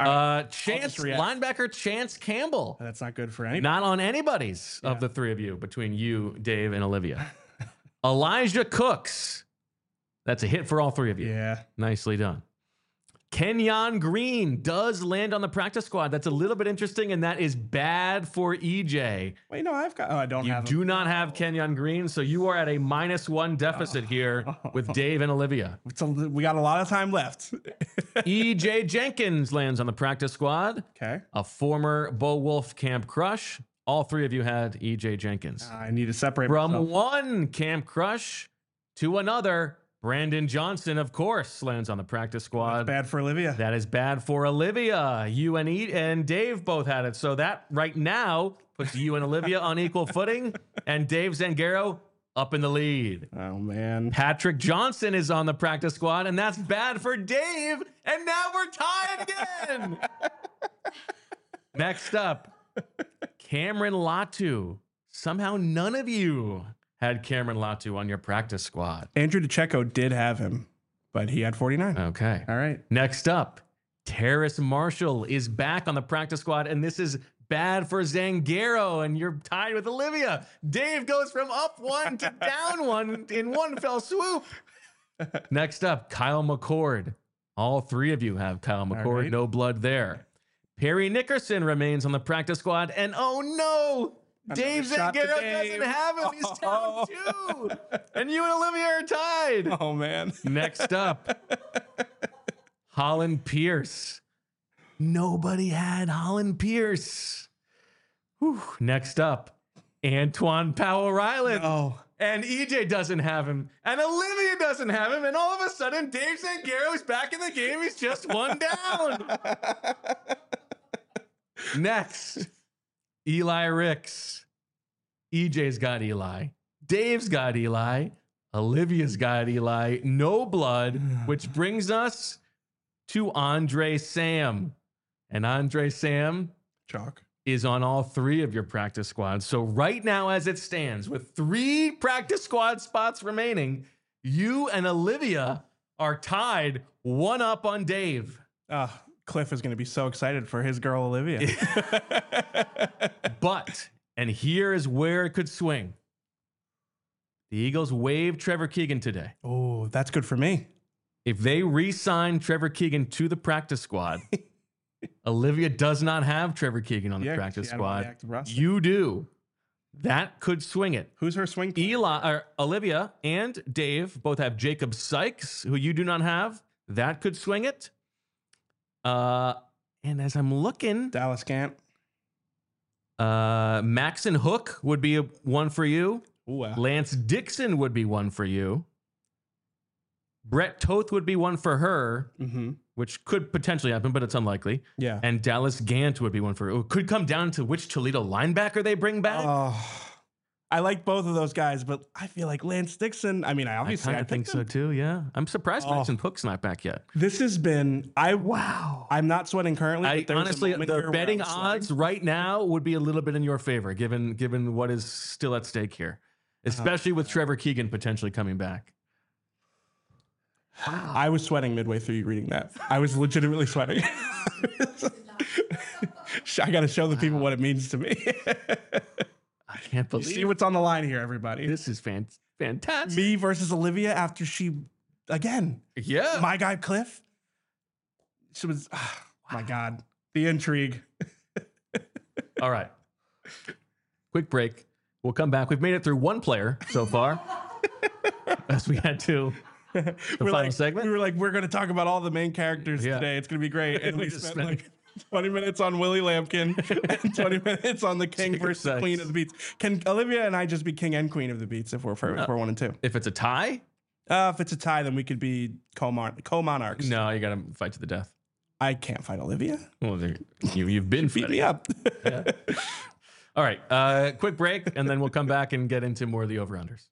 Linebacker Chance Campbell. That's not good for anybody. Not on anybody's of the 3 of you, between you, Dave, and Olivia. Elijah Cooks. That's a hit for all 3 of you. Yeah. Nicely done. Kenyon Green does land on the practice squad. That's a little bit interesting, and that is bad for EJ. Wait, no, I've got. Oh, I don't have. You do not have Kenyon Green, so you are at a -1 deficit here with Dave and Olivia. We got a lot of time left. EJ Jenkins lands on the practice squad. Okay. A former Bo Wolf camp crush. All three of you had EJ Jenkins. I need to separate From myself. one Camp Crush to another, Brandon Johnson, of course, lands on the practice squad. Bad for Olivia. That is bad for Olivia. You and Dave both had it. So that right now puts you and Olivia on equal footing, and Dave Zangaro up in the lead. Oh, man. Patrick Johnson is on the practice squad, and that's bad for Dave. And now we're tied again. Next up, Cameron Latu. Somehow none of you had Cameron Latu on your practice squad. Andrew DeCecco did have him, but he had 49. Okay. All right. Next up, Terrace Marshall is back on the practice squad, and this is bad for Zangaro, and you're tied with Olivia. Dave goes from up one to down one in one fell swoop. Next up, Kyle McCord. All three of you have Kyle McCord. right. No blood there. Perry Nickerson remains on the practice squad, and oh no, Dave shot to Zangaro Dave. doesn't have him. He's down two. And you and Olivia are tied. Oh, man. Next up, Holland Pierce. Nobody had Holland Pierce. Whew. Next up, Antoine Powell Ryland. Oh. And EJ doesn't have him. And Olivia doesn't have him. And all of a sudden, Dave Zangaro is back in the game. He's just one down. Next, Eli Ricks. EJ's got Eli. Dave's got Eli. Olivia's got Eli. No blood, which brings us to Andre Sam. And Andre Sam Chalk. is on all three of your practice squads. So right now, as it stands, with 3 practice squad spots remaining, you and Olivia are tied 1 up on Dave. Cliff is going to be so excited for his girl, Olivia. But, and here is where it could swing. The Eagles waived Trevor Keegan today. Oh, that's good for me. If they re-sign Trevor Keegan to the practice squad, Olivia does not have Trevor Keegan on the Yeah, 'cause practice she had him on the squad. active roster. You do. That could swing it. Who's her swing player? Olivia and Dave both have Jacob Sykes, who you do not have. That could swing it. And as I'm looking, Dallas Gant. Maxon Hook would be one for you. Ooh, Lance Dixon would be one for you. Brett Toth would be one for her, which could potentially happen, but it's unlikely. yeah. And Dallas Gant would be one for her. It could come down to which Toledo linebacker they bring back. Oh, I like both of those guys, but I feel like Lance Dixon. I mean, I obviously, kind of think so too. Yeah, I'm surprised Maxon Hook's not back yet. This has been. I'm not sweating currently. But there's a Honestly, moment here the where betting I'm sweating. odds right now would be a little bit in your favor, given what is still at stake here, especially with Trevor Keegan potentially coming back. I was sweating midway through you reading that. I was legitimately sweating. I got to show the people what it means to me. I can't See believe what's on the line here, everybody. this is fantastic. Me versus Olivia after she, again, Yeah. my guy Cliff. She was, my God, the intrigue. All right. Quick break. We'll come back. We've made it through one player so far, as we had to. The final segment. We were like, we're going to talk about all the main characters Yeah. today. It's going to be great. And We we just spent spent- like 20 minutes on Willie Lampkin and 20 minutes on the king Jacob versus the Sykes. queen of the beats. Can Olivia and I just be king and queen of the beats if we're 1 and 2? If it's a tie, If it's a tie, then we could be co-monarchs. no, you got to fight to the death. I can't fight Olivia. Well, you've been Beat fighting. me up. All right. Quick break, and then we'll come back and get into more of the over-unders.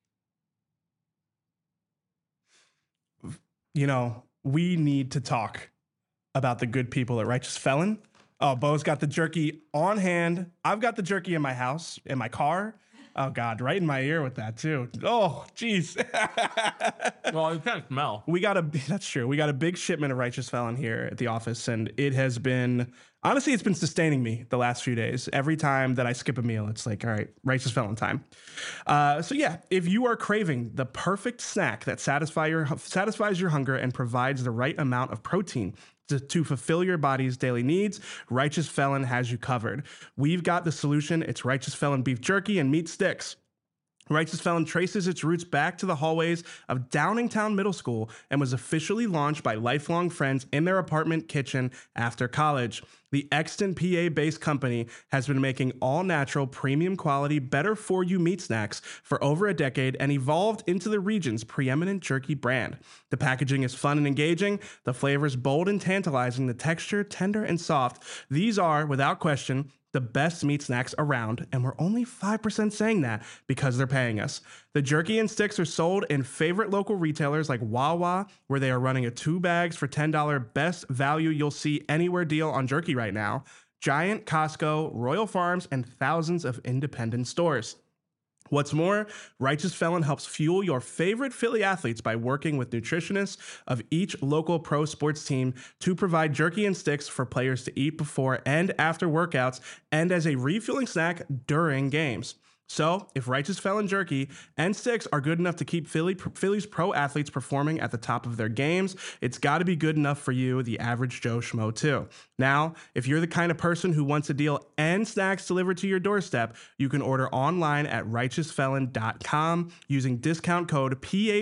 You know, we need to talk about the good people at Righteous Felon. Oh, Bo's got the jerky on hand. I've got the jerky in my house, in my car. Oh, God, right in my ear with that, too. Oh, jeez. Well, you can't smell. That's true. We got a big shipment of Righteous Felon here at the office, and it has been, honestly, it's been sustaining me the last few days. Every time that I skip a meal, it's like, all right, Righteous Felon time. So yeah, if you are craving the perfect snack that satisfies your hunger and provides the right amount of protein to fulfill your body's daily needs, Righteous Felon has you covered. We've got the solution. It's Righteous Felon beef jerky and meat sticks. Righteous Felon traces its roots back to the hallways of Downingtown Middle School and was officially launched by lifelong friends in their apartment kitchen after college. The Exton, PA-based company has been making all-natural, premium quality, better-for-you meat snacks for over a decade and evolved into the region's preeminent jerky brand. The packaging is fun and engaging, the flavors bold and tantalizing, the texture tender and soft. These are, without question, the best meat snacks around, and we're only 5% saying that because they're paying us. The jerky and sticks are sold in favorite local retailers like Wawa, where they are running a 2 bags for $10 best value you'll see anywhere deal on jerky right now, Giant, Costco, Royal Farms, and thousands of independent stores. What's more, Righteous Felon helps fuel your favorite Philly athletes by working with nutritionists of each local pro sports team to provide jerky and sticks for players to eat before and after workouts and as a refueling snack during games. So, if Righteous Felon jerky and sticks are good enough to keep Philly's pro athletes performing at the top of their games, it's got to be good enough for you, the average Joe Schmo, too. Now, if you're the kind of person who wants a deal and snacks delivered to your doorstep, you can order online at righteousfelon.com using discount code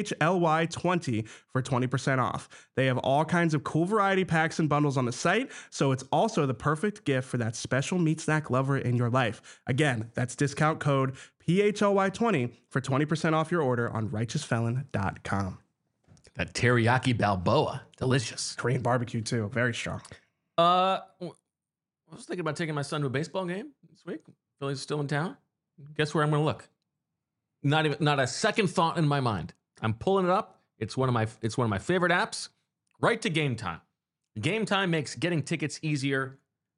PHLY20 for 20% off. They have all kinds of cool variety packs and bundles on the site, so it's also the perfect gift for that special meat snack lover in your life. Again, that's discount code PHLY20 for 20% off your order on righteousfelon.com. That teriyaki Balboa, delicious. Korean barbecue too, very strong. I was thinking about taking my son to a baseball game this week. Philly's still in town. Guess where I'm going to look? Not a second thought in my mind. I'm pulling it up. It's one of my favorite apps. Right to Game Time. Game Time makes getting tickets easier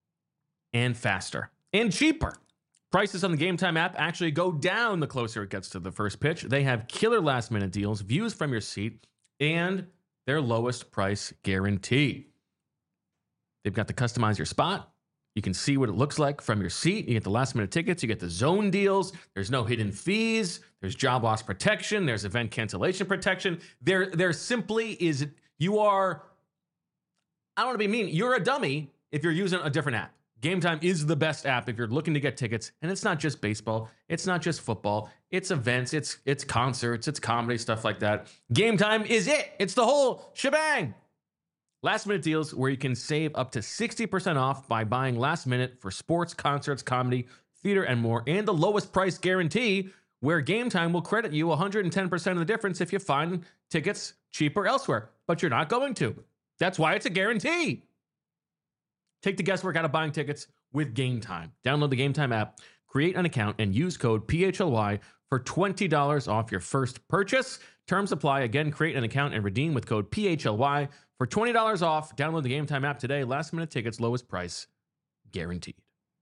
and faster and cheaper. Prices on the Game Time app actually go down the closer it gets to the first pitch. They have killer last-minute deals, views from your seat, and their lowest price guarantee. They've got the customize your spot. You can see what it looks like from your seat. You get the last-minute tickets. You get the zone deals. There's no hidden fees. There's job loss protection. There's event cancellation protection. There simply is, you are, I don't want to be mean, you're a dummy if you're using a different app. Game Time is the best app if you're looking to get tickets, and it's not just baseball, it's not just football, it's events, it's concerts, it's comedy, stuff like that. Game Time is it. It's the whole shebang. Last minute deals where you can save up to 60% off by buying last minute for sports, concerts, comedy, theater, and more, and the lowest price guarantee where Game Time will credit you 110% of the difference if you find tickets cheaper elsewhere, but you're not going to. That's why it's a guarantee. Take the guesswork out of buying tickets with Game Time. Download the Game Time app, create an account, and use code PHLY for $20 off your first purchase. Terms apply. Again, create an account and redeem with code PHLY for $20 off. Download the Game Time app today. Last minute tickets, lowest price, guaranteed.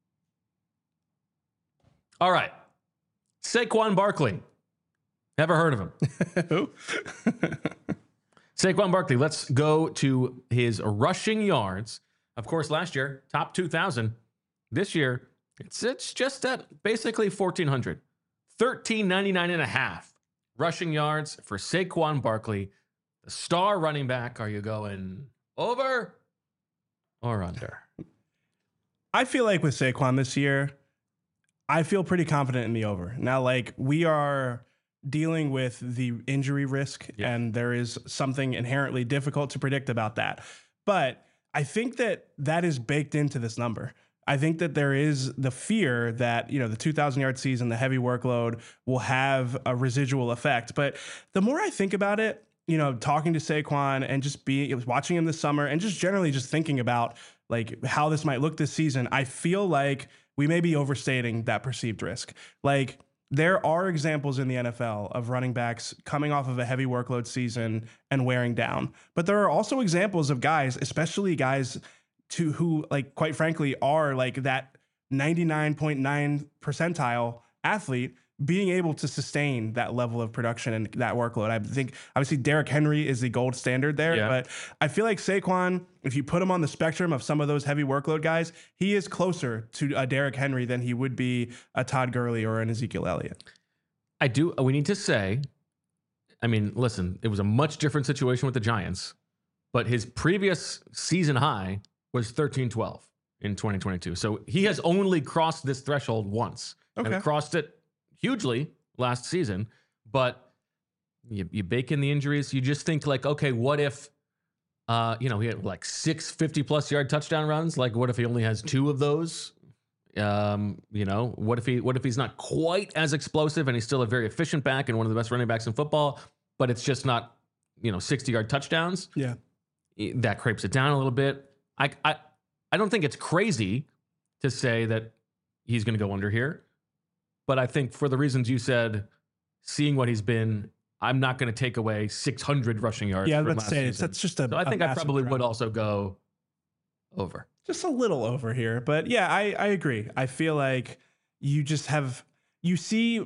All right. Saquon Barkley. Never heard of him. Who? Saquon Barkley. Let's go to his rushing yards. Of course, last year, top 2,000. This year, it's just at basically 1,400. 1,399 and a half rushing yards for Saquon Barkley. The star running back. Are you going over or under? I feel like with Saquon this year, I feel pretty confident in the over. Now, like, we are dealing with the injury risk, and there is something inherently difficult to predict about that. But I think that is baked into this number. I think that there is the fear that, the 2,000-yard season, the heavy workload will have a residual effect. But the more I think about it, talking to Saquon and just watching him this summer and just generally just thinking about like how this might look this season, I feel like we may be overstating that perceived risk. Like, there are examples in the NFL of running backs coming off of a heavy workload season and wearing down. But there are also examples of guys, especially guys who, like, quite frankly, are like that 99.9 percentile athlete being able to sustain that level of production and that workload. I think obviously Derrick Henry is the gold standard there, but I feel like Saquon, if you put him on the spectrum of some of those heavy workload guys, he is closer to a Derrick Henry than he would be a Todd Gurley or an Ezekiel Elliott. We need to say, I mean, listen, it was a much different situation with the Giants, but his previous season high was 13-12 in 2022. So he has only crossed this threshold once. Okay. And crossed it hugely last season, but you bake in the injuries. You just think like, okay, what if, he had like 6 50-plus yard touchdown runs? Like, what if he only has 2 of those? What if he's not quite as explosive and he's still a very efficient back and one of the best running backs in football, but it's just not, 60-yard touchdowns? Yeah. That crepes it down a little bit. I don't think it's crazy to say that he's going to go under here, but I think for the reasons you said, seeing what he's been, I'm not going to take away 600 rushing yards. Yeah, from let's last say season. that's just a. So I think I probably drop. would also go over. Just a little over here, but yeah, I agree. I feel like you see.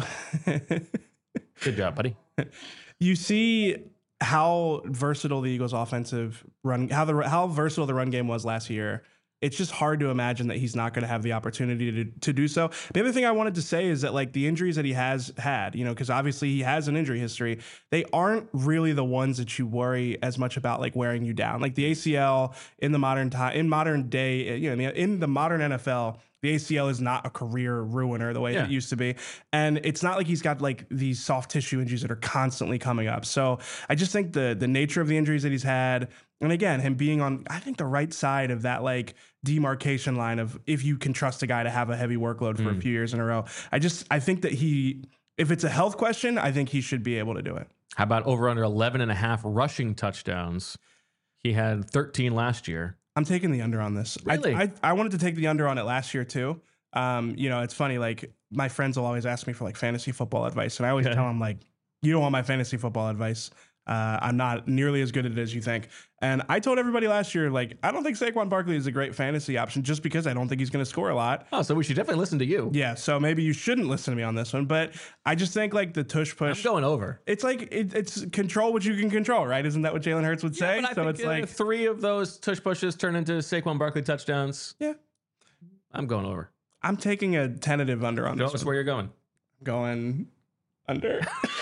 Good job, buddy. You see how versatile the Eagles' offensive run, how versatile the run game was last year. It's just hard to imagine that he's not going to have the opportunity to do so. The other thing I wanted to say is that like the injuries that he has had, because obviously he has an injury history, they aren't really the ones that you worry as much about like wearing you down. Like the ACL in the modern day, in the modern NFL, the ACL is not a career ruiner the way that it used to be. And it's not like he's got like these soft tissue injuries that are constantly coming up. So I just think the nature of the injuries that he's had, and again, him being on, I think, the right side of that like demarcation line of if you can trust a guy to have a heavy workload for a few years in a row. I think that if it's a health question, I think he should be able to do it. How about over under 11.5 rushing touchdowns? He had 13 last year. I'm taking the under on this. Really? I wanted to take the under on it last year too. It's funny, like my friends will always ask me for like fantasy football advice, and I always tell them like, you don't want my fantasy football advice. I'm not nearly as good at it as you think. And I told everybody last year, like, I don't think Saquon Barkley is a great fantasy option just because I don't think he's going to score a lot. Oh, so we should definitely listen to you. Yeah, so maybe you shouldn't listen to me on this one, but I just think like the tush push. I'm going over. It's like it's control what you can control, right? Isn't that what Jalen Hurts would say? But I so think, it's like 3 of those tush pushes turn into Saquon Barkley touchdowns. Yeah, I'm going over. I'm taking a tentative under on Show this us one. where you're going. Going under.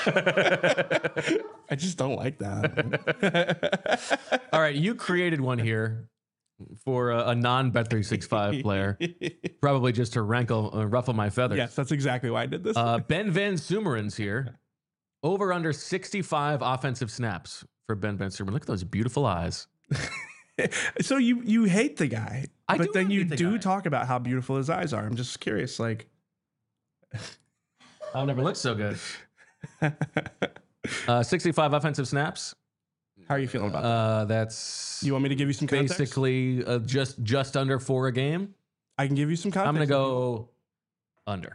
I just don't like that. All right, you created one here for a non-Bet365 player, probably just to ruffle my feathers. Yes, that's exactly why I did this. Ben Van Sumeren's here. Over under 65 offensive snaps for Ben Van Sumeren. Look at those beautiful eyes. So you hate the guy, I but do then hate you the do guy. talk about how beautiful his eyes are. I'm just curious, like. I've never looked so good. 65 offensive snaps. How are you feeling about that? That's You want me to give you some context? basically just under 4 a game. I can give you some context. I'm going to go under.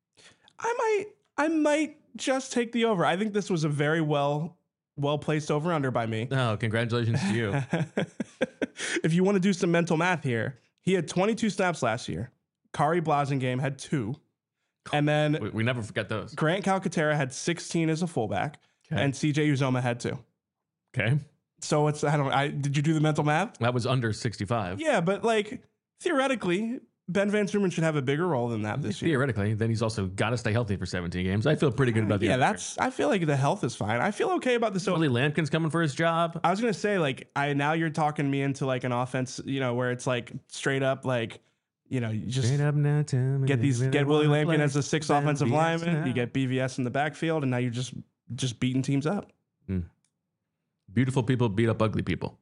I might just take the over. I think this was a very well placed over under by me. Oh, congratulations to you. If you want to do some mental math here, he had 22 snaps last year. Kari Blasingame had 2. And then We never forget those. Grant Calcaterra had 16 as a fullback, Okay. and CJ Uzoma had 2. Okay. So did you do the mental math? That was under 65. Yeah, but like theoretically, Ben Van Sumeren should have a bigger role than that this year. Theoretically, then he's also got to stay healthy for 17 games. I feel pretty good about the Yeah, under. I feel like the health is fine. I feel okay about this. Willie Lampkin's coming for his job. I was gonna say like now you're talking me into like an offense, where it's like straight up like, you just Straight up now, tell me get you really Willie wanna Lampkin play as a 6th Ben offensive BS lineman. now. You get BVS in the backfield, and now you're just beating teams up. Beautiful people beat up ugly people.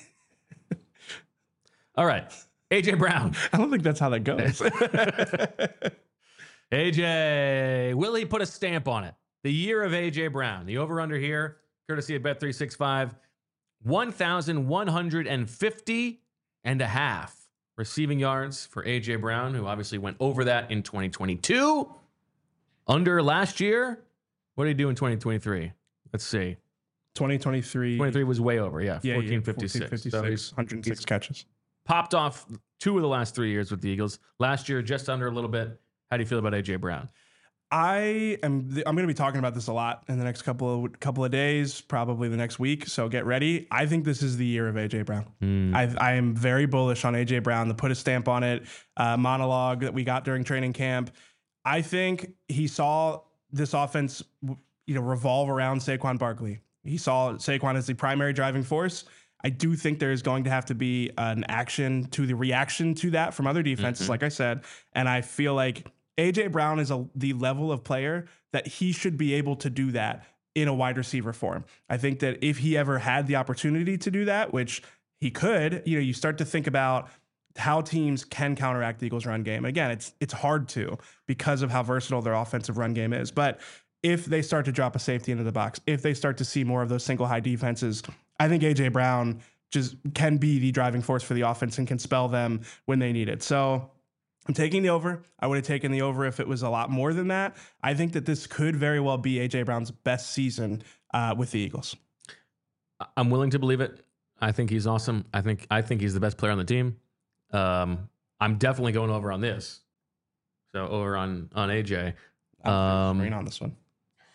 All right. AJ Brown. I don't think that's how that goes. AJ, will he put a stamp on it? The year of AJ Brown. The over-under here, courtesy of Bet365, 1,150 and a half receiving yards for AJ Brown, who obviously went over that in 2022. Under last year. What did he do in 2023? Let's see. 2023. 23 was way over. Yeah, 1456. 1456. So he's 106 catches. popped off 2 of the last 3 years with the Eagles. Last year, just under a little bit. How do you feel about AJ Brown? I'm going to be talking about this a lot in the next couple of days, probably the next week. So get ready. I think this is the year of AJ Brown. I am very bullish on AJ Brown. The put a stamp on it monologue that we got during training camp. I think he saw this offense, revolve around Saquon Barkley. He saw Saquon as the primary driving force. I do think there is going to have to be an action to the reaction to that from other defenses, like I said. And I feel like AJ Brown is the level of player that he should be able to do that in a wide receiver form. I think that if he ever had the opportunity to do that, which he could, you start to think about how teams can counteract the Eagles' run game. Again, it's hard to because of how versatile their offensive run game is. But if they start to drop a safety into the box, if they start to see more of those single high defenses, I think AJ Brown just can be the driving force for the offense and can spell them when they need it. So I'm taking the over. I would have taken the over if it was a lot more than that. I think that this could very well be AJ Brown's best season with the Eagles. I'm willing to believe it. I think he's awesome. I think he's the best player on the team. I'm definitely going over on this. So over on AJ. I'm on this one.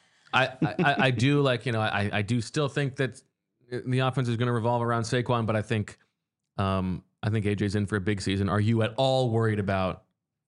I do I do still think that the offense is going to revolve around Saquon, but I think AJ's in for a big season. Are you at all worried about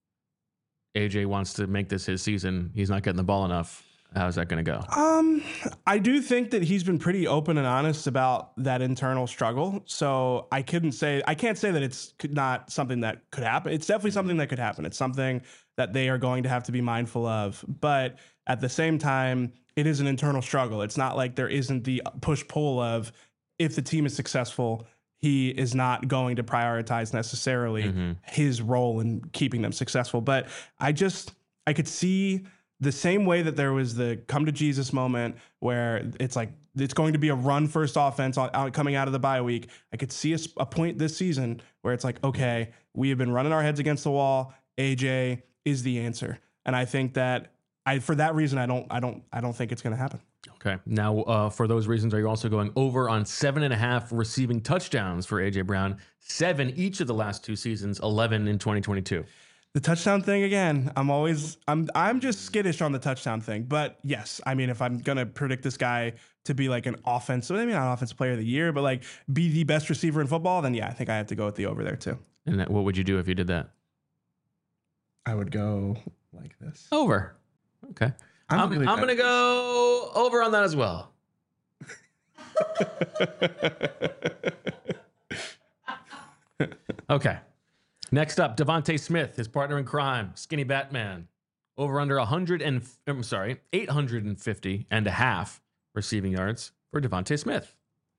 AJ wants to make this his season? He's not getting the ball enough. How's that going to go? I do think that he's been pretty open and honest about that internal struggle. So I can't say that it's not something that could happen. It's definitely something that could happen. It's something that they are going to have to be mindful of. But at the same time, it is an internal struggle. It's not like there isn't the push-pull of if the team is successful, he is not going to prioritize necessarily his role in keeping them successful. But I could see the same way that there was the come to Jesus moment where it's like it's going to be a run first offense coming out of the bye week. I could see a point this season where it's like, okay, we have been running our heads against the wall. AJ is the answer. And I think that for that reason, I don't think it's going to happen. Okay. Now, for those reasons, are you also going over on 7.5 receiving touchdowns for AJ Brown? 7 each of the last 2 seasons, 11 in 2022. The touchdown thing again, I'm just skittish on the touchdown thing. But yes, I mean, if I'm gonna predict this guy to be like an offensive, maybe not offensive player of the year, but like be the best receiver in football, then yeah, I think I have to go with the over there too. And what would you do if you did that? I would go like this. Over. Okay. I'm gonna go over on that as well. Okay. Next up, Devontae Smith, his partner in crime, Skinny Batman, over under 850.5 receiving yards for Devontae Smith.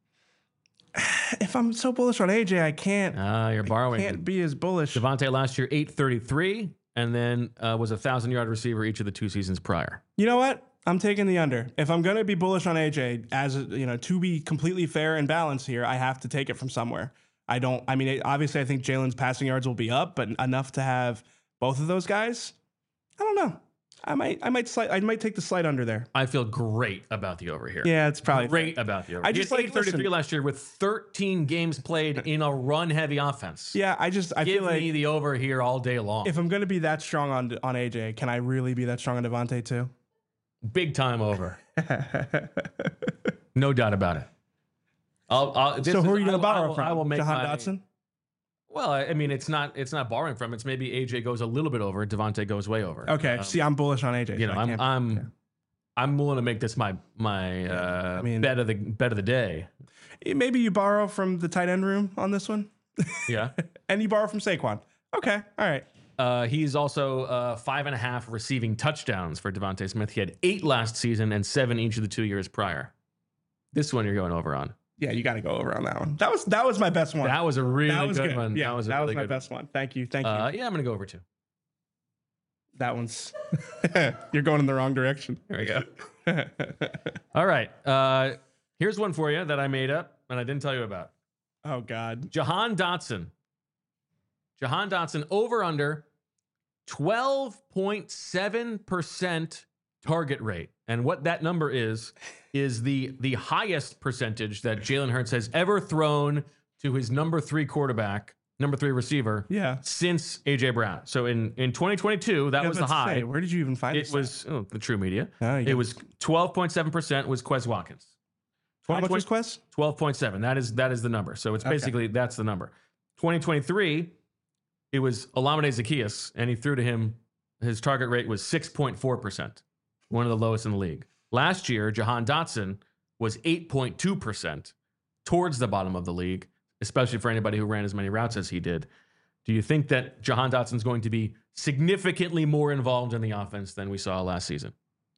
If I'm so bullish on AJ, I can't. You're borrowing. I can't be as bullish. Devontae last year 833, and then was a 1,000-yard receiver each of the 2 seasons prior. You know what? I'm taking the under. If I'm going to be bullish on AJ, to be completely fair and balanced here, I have to take it from somewhere. Obviously, I think Jalen's passing yards will be up, but enough to have both of those guys. I don't know. I might take the slight under there. I feel great about the over here. Yeah, it's probably great about the over. I just like 833 last year with 13 games played in a run-heavy offense. Yeah, I give feel like me the over here all day long. If I'm going to be that strong on AJ, can I really be that strong on Devontae too? Big time over. No doubt about it. So who are you going to borrow from? I will make Jahan Dotson? Well, I mean, it's not borrowing from. It's maybe AJ goes a little bit over, Devontae goes way over. Okay, see, I'm bullish on AJ. I'm willing to make this my bet of the day. Maybe you borrow from the tight end room on this one. Yeah, and you borrow from Saquon. Okay, all right. He's also 5.5 receiving touchdowns for Devontae Smith. He had 8 last season and 7 each of the 2 years prior. This one you're going over on. Yeah, you got to go over on that one. That was my best one. That was a really good one. Yeah, that was my best one. Thank you. Yeah, I'm going to go over too. That one's... You're going in the wrong direction. Here we go. All right. Here's one for you that I made up and I didn't tell you about. Oh, God. Jahan Dotson over under 12.7% target rate. And what that number is the highest percentage that Jalen Hurts has ever thrown to his number 3 receiver since AJ Brown. So in 2022, that was the high. Where did you even find it? It was the True Media. It was 12.7% was Quez Watkins. How much was Quez? 12.7. That is the number. So it's basically that's the number. 2023, it was Olamide Zaccheaus, and he threw to him. His target rate was 6.4%, one of the lowest in the league. Last year, Jahan Dotson was 8.2%, towards the bottom of the league, especially for anybody who ran as many routes as he did. Do you think that Jahan Dotson's going to be significantly more involved in the offense than we saw last season?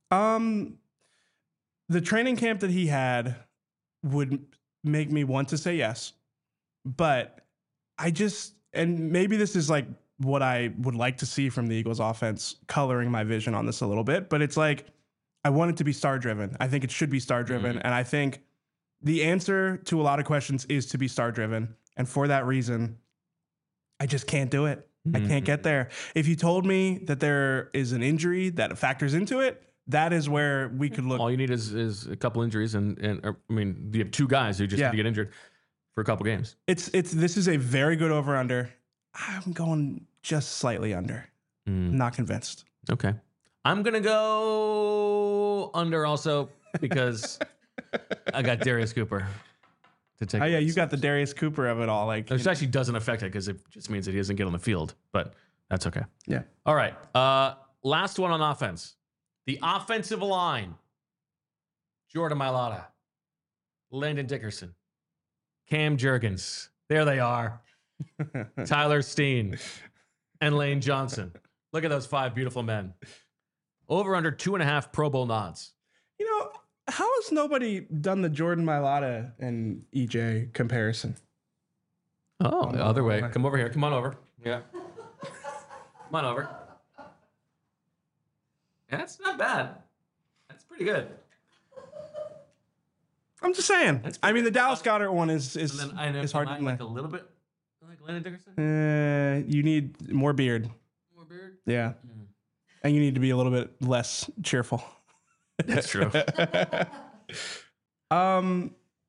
The training camp that he had would make me want to say yes, but and maybe this is like what I would like to see from the Eagles offense, coloring my vision on this a little bit, but it's like, I want it to be star driven. I think it should be star driven. And I think the answer to a lot of questions is to be star driven. And for that reason, I just can't do it. I can't get there. If you told me that there is an injury that factors into it, that is where we could look. All you need is a couple injuries, and I mean, you have two guys who just need to get injured for a couple games. This is a very good over under. I'm going just slightly under. Not convinced. Okay, I'm gonna go under also because I got Darius Cooper to take. Oh yeah, you got the Darius Cooper of it all. Like, which actually doesn't affect it because it just means that he doesn't get on the field, but that's okay. Yeah. All right. Last one on offense. The offensive line. Jordan Mailata, Landon Dickerson, Cam Jurgens. There they are. Tyler Steen and Lane Johnson. Look at those 5 beautiful men. Over under 2.5 Pro Bowl nods. You know, how has nobody done the Jordan Mailata and EJ comparison? Oh, the other way. Come over here. Come on over. Yeah. Come on over. That's not bad. That's pretty good. I'm just saying. I mean, the Dallas Goedert one is hard to like a little bit like Landon Dickerson. You need more beard. More beard. Yeah, and you need to be a little bit less cheerful. That's true. I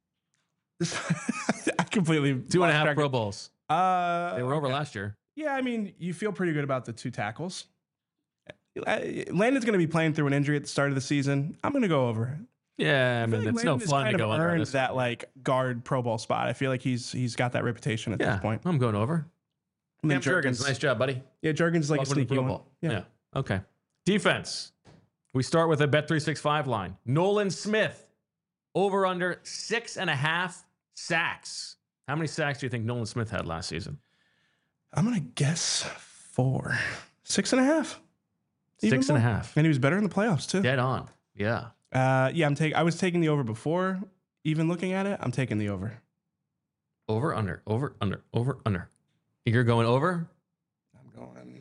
completely 2.5 Pro Bowls. They They were over last year. Yeah, I mean, you feel pretty good about the 2 tackles. Landon's going to be playing through an injury at the start of the season. I'm going to go over it. Yeah, I mean, like it's no Landon fun to go under. earned that like guard Pro Bowl spot. I feel like he's got that reputation at this point. I'm going over. And then Cam Jurgens, nice job, buddy. Yeah, Jurgens is like Welcome a to the sneaky Pro one. Bowl. Yeah. Yeah. Okay. Defense. We start with a Bet365 line. Nolan Smith, over under 6.5 sacks. How many sacks do you think Nolan Smith had last season? I'm going to guess 4. 6.5. 6.5. And he was better in the playoffs too. Dead on. Yeah. I was taking the over before even looking at it. I'm taking the over. Over, under, over, under, over, under. You're going over? I'm going.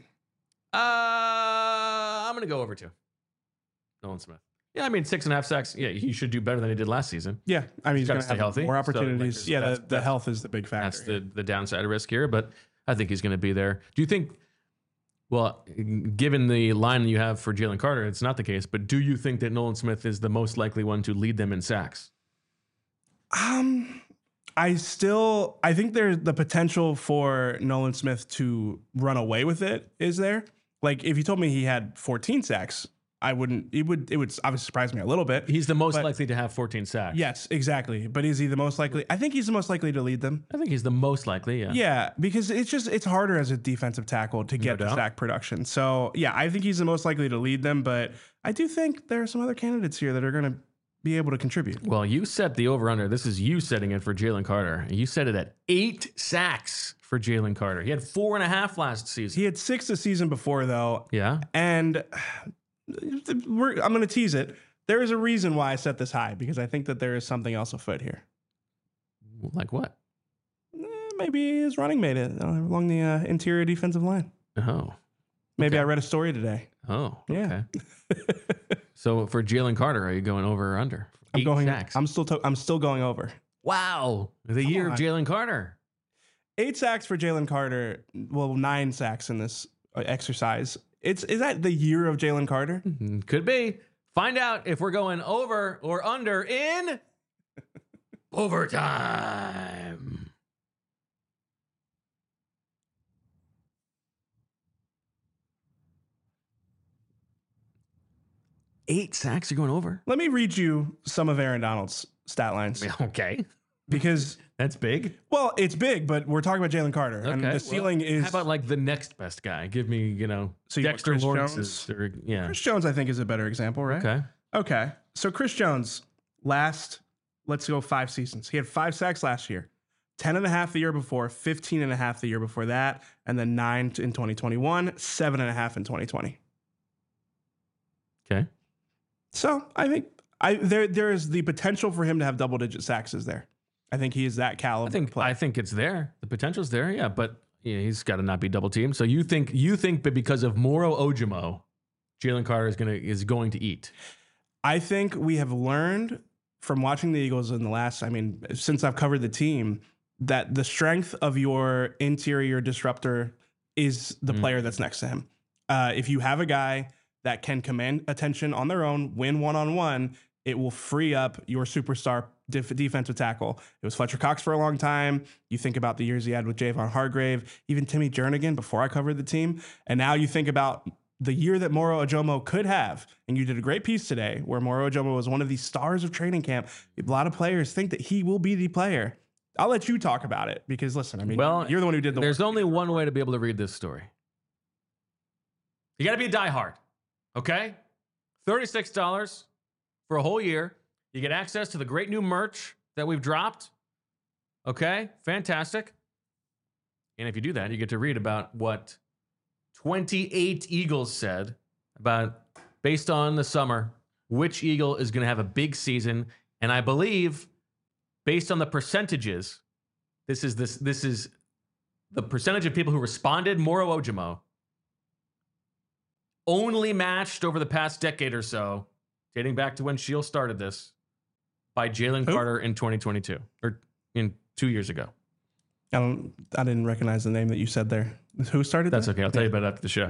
I'm going to go over too. Nolan Smith. Yeah, I mean, 6.5 sacks. Yeah, he should do better than he did last season. Yeah, I mean, he's gotta going to stay have healthy. more opportunities. So, like, the health is the big factor. That's the downside risk here, but I think he's going to be there. Do you think, well, given the line you have for Jalen Carter, it's not the case, but do you think that Nolan Smith is the most likely one to lead them in sacks? I think there's the potential for Nolan Smith to run away with it. Is there? Like, if you told me he had 14 sacks, I wouldn't. It would obviously surprise me a little bit. He's the most likely to have 14 sacks. Yes, exactly. But is he the most likely? I think he's the most likely to lead them. I think he's the most likely. Yeah. Yeah, because it's harder as a defensive tackle to get the sack production. So yeah, I think he's the most likely to lead them. But I do think there are some other candidates here that are going to be able to contribute. Well, you set the over-under. This is you setting it for Jalen Carter. You set it at 8 sacks for Jalen Carter. He had 4.5 last season. He had 6 the season before, though. Yeah. And I'm going to tease it. There is a reason why I set this high, because I think that there is something else afoot here. Like what? Maybe his running mate along the interior defensive line. Oh. Maybe I read a story today. Oh, Yeah. okay. So for Jalen Carter, are you going over or under? 8 sacks. I'm still going over. Wow. The year of Jalen Carter. 8 sacks for Jalen Carter. Well, 9 sacks in this exercise. Is that the year of Jalen Carter? Could be. Find out if we're going over or under in overtime. Eight sacks, you're going over? Let me read you some of Aaron Donald's stat lines. Okay. Because that's big. Well, it's big, but we're talking about Jalen Carter. Okay. And the ceiling is. How about like the next best guy? Give me, so Dexter Chris Lawrence. Jones? Yeah. Chris Jones, I think, is a better example, right? Okay. So Chris Jones, let's go 5 seasons. He had 5 sacks last year. 10.5 the year before, 15.5 the year before that, and then 9 in 2021, 7.5 in 2020. Okay. So I think there is the potential for him to have double-digit sacks there. I think he is that caliber player. I think it's there. The potential's there, yeah, but he's got to not be double teamed. So you think that because of Moro Ojomo, Jalen Carter is going to eat? I think we have learned from watching the Eagles in the last, since I've covered the team, that the strength of your interior disruptor is the player that's next to him. If you have a guy that can command attention on their own, win one-on-one, it will free up your superstar defensive tackle. It was Fletcher Cox for a long time. You think about the years he had with Javon Hargrave, even Timmy Jernigan before I covered the team. And now you think about the year that Moro Ojomo could have, and you did a great piece today where Moro Ojomo was one of the stars of training camp. A lot of players think that he will be the player. I'll let you talk about it because, listen, you're the one who did the There's work. only one way to be able to read this story. You got to be a diehard, okay? $36 for a whole year. You get access to the great new merch that we've dropped, okay? Fantastic. And if you do that, you get to read about what 28 Eagles said about, based on the summer, which Eagle is going to have a big season. And I believe, based on the percentages, this is the percentage of people who responded, Moro Ojomo, only matched over the past decade or so, dating back to when Shield started this, by Jalen Carter in 2022, or in 2 years ago. I didn't recognize the name that you said there. Who started That's that? okay. I'll tell you about it after the show.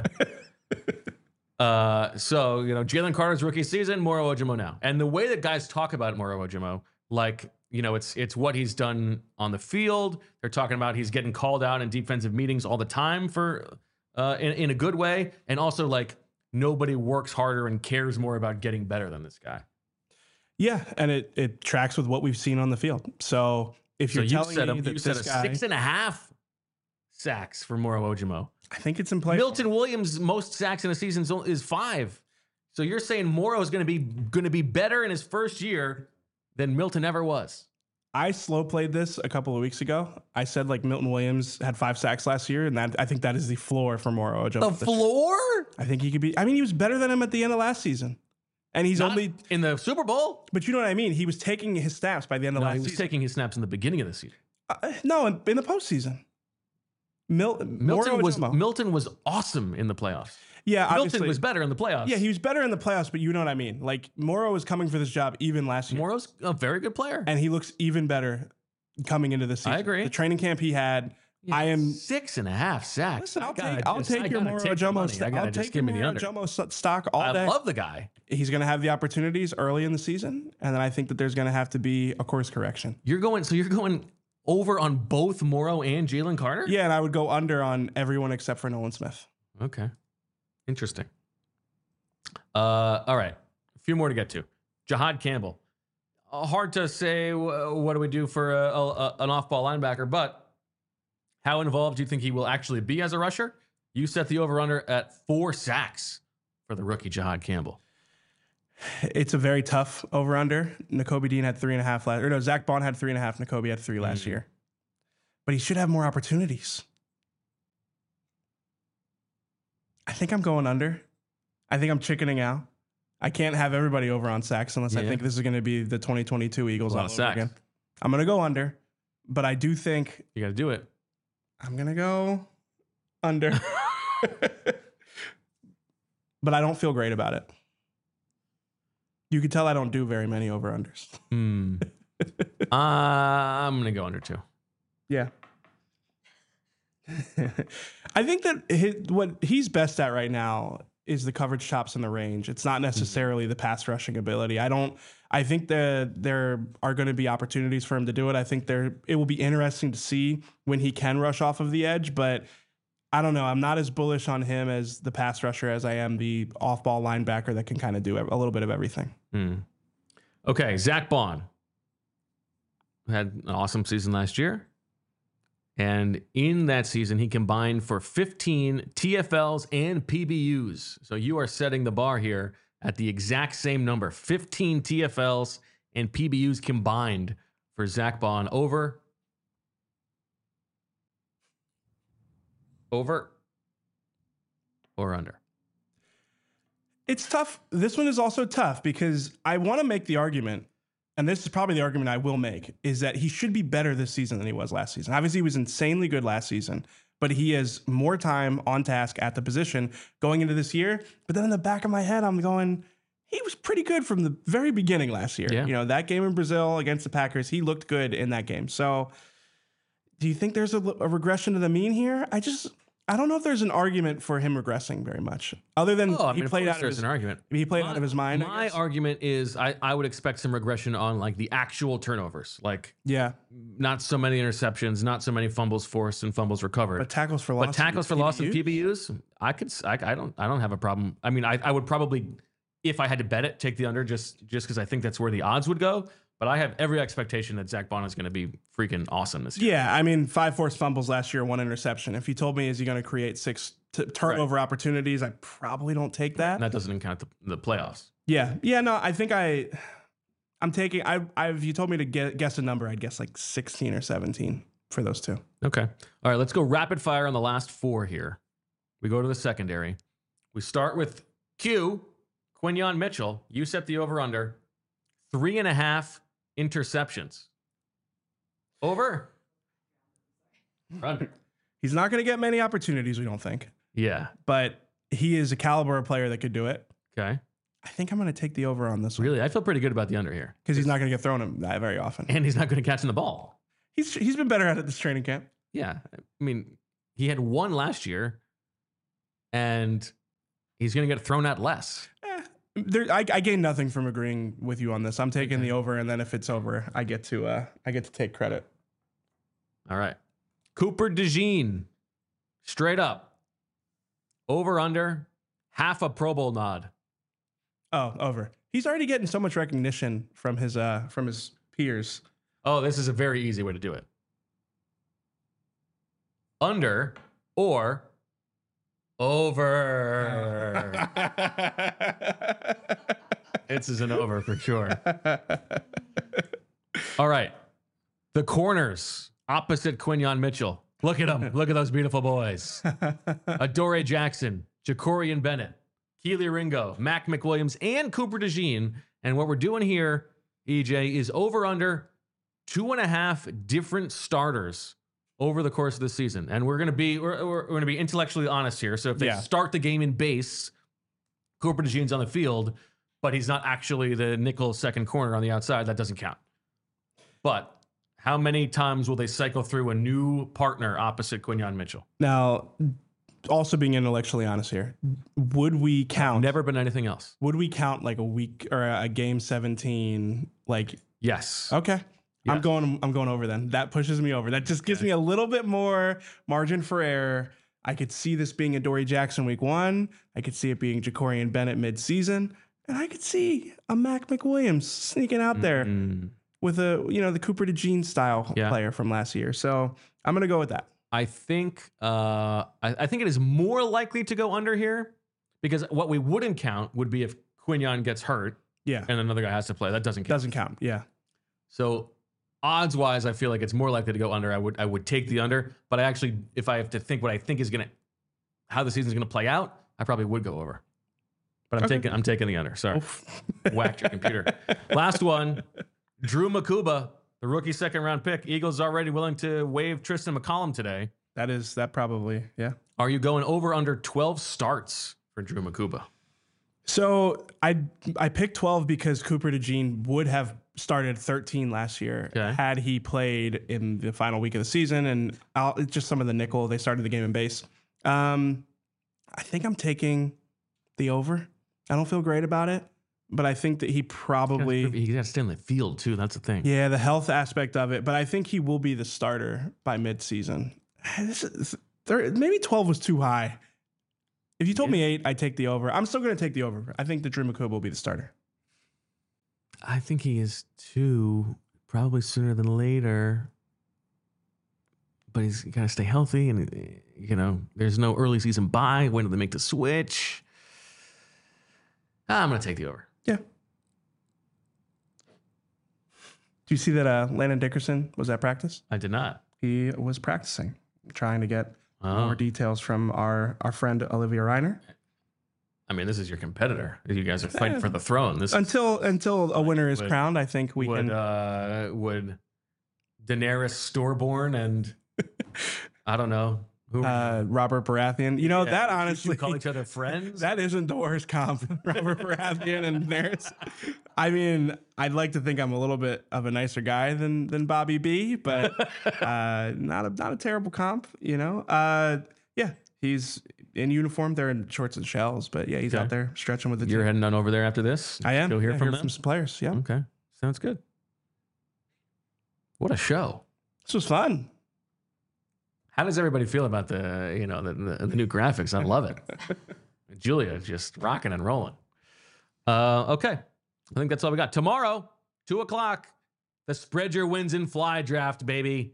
So, Jalen Carter's rookie season, Moro Ojomo now. And the way that guys talk about Moro Ojomo, like, it's what he's done on the field. They're talking about he's getting called out in defensive meetings all the time for in a good way. And also, like, nobody works harder and cares more about getting better than this guy. Yeah, and it tracks with what we've seen on the field. So if you're telling me that this guy, 6.5 sacks for Moro Ojomo. I think it's in play. Milton Williams' most sacks in a season is 5. So you're saying Moro is going to be better in his first year than Milton ever was. I slow played this a couple of weeks ago. I said like Milton Williams had 5 sacks last year, and I think that is the floor for Moro Ojomo. The floor? I think he could be. He was better than him at the end of last season. And he's Not only in the Super Bowl. But you know what I mean? He was taking his snaps by the end of last season. He was taking his snaps in the beginning of the season. No, in the postseason. Milton was awesome in the playoffs. Yeah, Milton was better in the playoffs. Yeah, he was better in the playoffs, but you know what I mean. Like, Moro was coming for this job even last year. Moro's a very good player. And he looks even better coming into this season. I agree. The training camp he had, I am 6.5 sacks. Listen, I'll take your Moro Ojomo stock all day. I love the guy. He's going to have the opportunities early in the season, and then I think that there's going to have to be a course correction. You're going over on both Moro and Jalen Carter? Yeah, and I would go under on everyone except for Nolan Smith. Okay. Interesting. All right. A few more to get to. Jahad Campbell. Hard to say what do we do for an off-ball linebacker, but how involved do you think he will actually be as a rusher? You set the over-under at 4 sacks for the rookie Jahad Campbell. It's a very tough over-under. Nakobe Dean had 3.5 Zach Bond had 3.5. Nakobe had 3 last year. But he should have more opportunities. I think I'm going under. I think I'm chickening out. I can't have everybody over on sacks unless I think this is going to be the 2022 Eagles all over again. I'm going to go under, but I do think you got to do it. I'm going to go under. But I don't feel great about it. You can tell I don't do very many over-unders. I'm going to go under 2. Yeah. I think that what he's best at right now is the coverage chops in the range. It's not necessarily the pass rushing ability. I think that there are going to be opportunities for him to do it. I think it will be interesting to see when he can rush off of the edge, but I don't know. I'm not as bullish on him as the pass rusher as I am the off-ball linebacker that can kind of do a little bit of everything. Okay, Zach Bond had an awesome season last year. And in that season, he combined for 15 TFLs and PBUs. So you are setting the bar here at the exact same number, 15 TFLs and PBUs combined for Zach Bond, over Over or under? It's tough. This one is also tough because I want to make the argument, and this is probably the argument I will make, is that he should be better this season than he was last season. Obviously, he was insanely good last season, but he has more time on task at the position going into this year. But then in the back of my head, I'm going, he was pretty good from the very beginning last year. Yeah. You know, that game in Brazil against the Packers, he looked good in that game. So do you think there's a regression to the mean here? I don't know if there's an argument for him regressing very much, other than Oh, I mean, he played out of there's his an argument. He played out of his mind. I My guess. argument is I would expect some regression on like the actual turnovers, like Yeah, not so many interceptions, not so many fumbles forced and fumbles recovered. but tackles for loss. But tackles for loss and PBUs? PBUs, I don't have a problem. I mean, I would probably, if I had to bet it, take the under just because I think that's where the odds would go. But I have every expectation that Zach Bond is going to be freaking awesome this year. Yeah, I mean, 5 forced fumbles last year, 1 interception. If you told me is he going to create 6 turnover opportunities, I probably don't take that. And that doesn't even count the playoffs. Yeah, no, I think I'm taking. If you told me to guess a number, I'd guess like 16 or 17 for those two. Okay. All right, let's go rapid fire on the last 4 here. We go to the secondary. We start with Quinyon Mitchell. You set the over under 3.5 interceptions. Over. Under. He's not going to get many opportunities, we don't think, Yeah. but he is a caliber of player that could do it. Okay. I think I'm going to take the over on this one Really, I feel pretty good about the under here. because he's not going to get thrown him that very often. And he's not going to catch in the ball. He's been better at it this training camp. Yeah. I mean, he had 1 last year, and he's going to get thrown at less. I gain nothing from agreeing with you on this. I'm taking the over, and then if it's over, I get to take credit. All right. Cooper DeJean, straight up. Over, under, half a Pro Bowl nod. Oh, over. He's already getting so much recognition from his peers. Oh, this is a very easy way to do it. Under or over. This is an over for sure. All right. The corners opposite Quinyon Mitchell. Look at them. Look at those beautiful boys. Adoree Jackson, Jacorian Bennett, Keely Ringo, Mac McWilliams, and Cooper DeJean. And what we're doing here, EJ, is over under 2.5 different starters over the course of the season. And we're gonna be intellectually honest here. So if they start the game in base, Cooper DeJean's on the field, but he's not actually the nickel second corner on the outside, that doesn't count. But how many times will they cycle through a new partner opposite Quinyon Mitchell? Now, also being intellectually honest here, would we count? Never been anything else. Would we count like a week or a game 17? Like, Yes. okay. Yes. I'm going over then. That pushes me over. That just gives me a little bit more margin for error. I could see this being Adoree Jackson week 1. I could see it being Jacorian Bennett mid-season. And I could see a Mac McWilliams sneaking out there with the Cooper DeJean style player from last year. So I'm going to go with that. I think I think it is more likely to go under here because what we wouldn't count would be if Quinyon gets hurt Yeah. and another guy has to play. That doesn't count. Doesn't count. Yeah. So odds wise, I feel like it's more likely to go under. I would take the under, but I actually, if I have to think what I think is how the season's gonna play out, I probably would go over. But I'm taking the under. Sorry, whacked your computer. Last one, Drew Makuba, the rookie second round pick. Eagles already willing to waive Tristan McCollum today. That probably, yeah. Are you going over under 12 starts for Drew Makuba? So I picked 12 because Cooper DeJean would have started 13 last year had he played in the final week of the season, and just some of the nickel. They started the game in base. I think I'm taking the over. I don't feel great about it, but I think that he probably He got to stay in the field too. That's the thing. the health aspect of it. But I think he will be the starter by midseason. Maybe 12 was too high. If you told me 8, I'd take the over. I'm still going to take the over. I think that Drew Makuba will be the starter. I think he is too, probably sooner than later. But he's got to stay healthy, and there's no early season bye. When do they make the switch? I'm going to take the over. Yeah. Do you see that Landon Dickerson was at practice? I did not. He was practicing, trying to get more details from our friend Olivia Reiner. I mean, this is your competitor. You guys are fighting for the throne. This Until a winner is crowned, I think we would can. Would Daenerys Storborn and I don't know who Robert Baratheon. You know, that honestly, call each other friends. that isn't the worst comp. Robert Baratheon and Daenerys. I mean, I'd like to think I'm a little bit of a nicer guy than Bobby B, but not a terrible comp. You know, yeah, he's in uniform. They're in shorts and shells, but yeah, he's out there stretching with the team. You're heading on over there after this. I am. Go hear from them. From some players. Yeah. Okay, sounds good. What a show! This was fun. How does everybody feel about the new graphics? I love it. Julia just rocking and rolling. Okay, I think that's all we got. Tomorrow, 2:00, the Spread Your Wins and Fly draft, baby.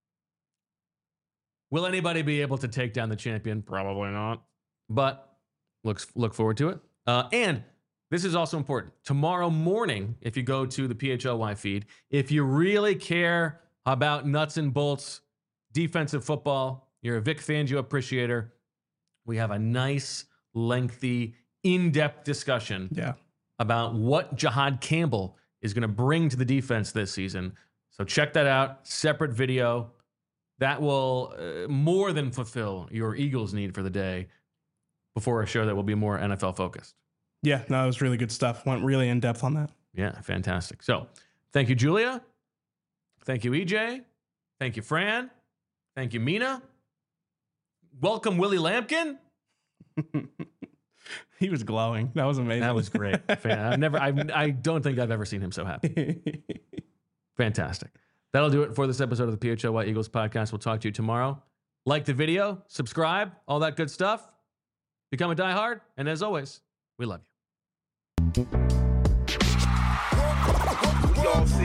Will anybody be able to take down the champion? Probably not. But look forward to it. And this is also important. Tomorrow morning, if you go to the PHLY feed, if you really care about nuts and bolts defensive football, you're a Vic Fangio appreciator, we have a nice, lengthy, in-depth discussion about what Jihad Campbell is going to bring to the defense this season. So check that out. Separate video. That will more than fulfill your Eagles need for the day before a show that will be more NFL focused. Yeah, no, it was really good stuff. Went really in depth on that. Yeah, fantastic. So thank you, Julia. Thank you, EJ. Thank you, Fran. Thank you, Mina. Welcome, Willie Lampkin. He was glowing. That was amazing. That was great. I don't think I've ever seen him so happy. Fantastic. That'll do it for this episode of the PHLY Eagles podcast. We'll talk to you tomorrow. Like the video, subscribe, all that good stuff. Become a diehard. And as always, we love you.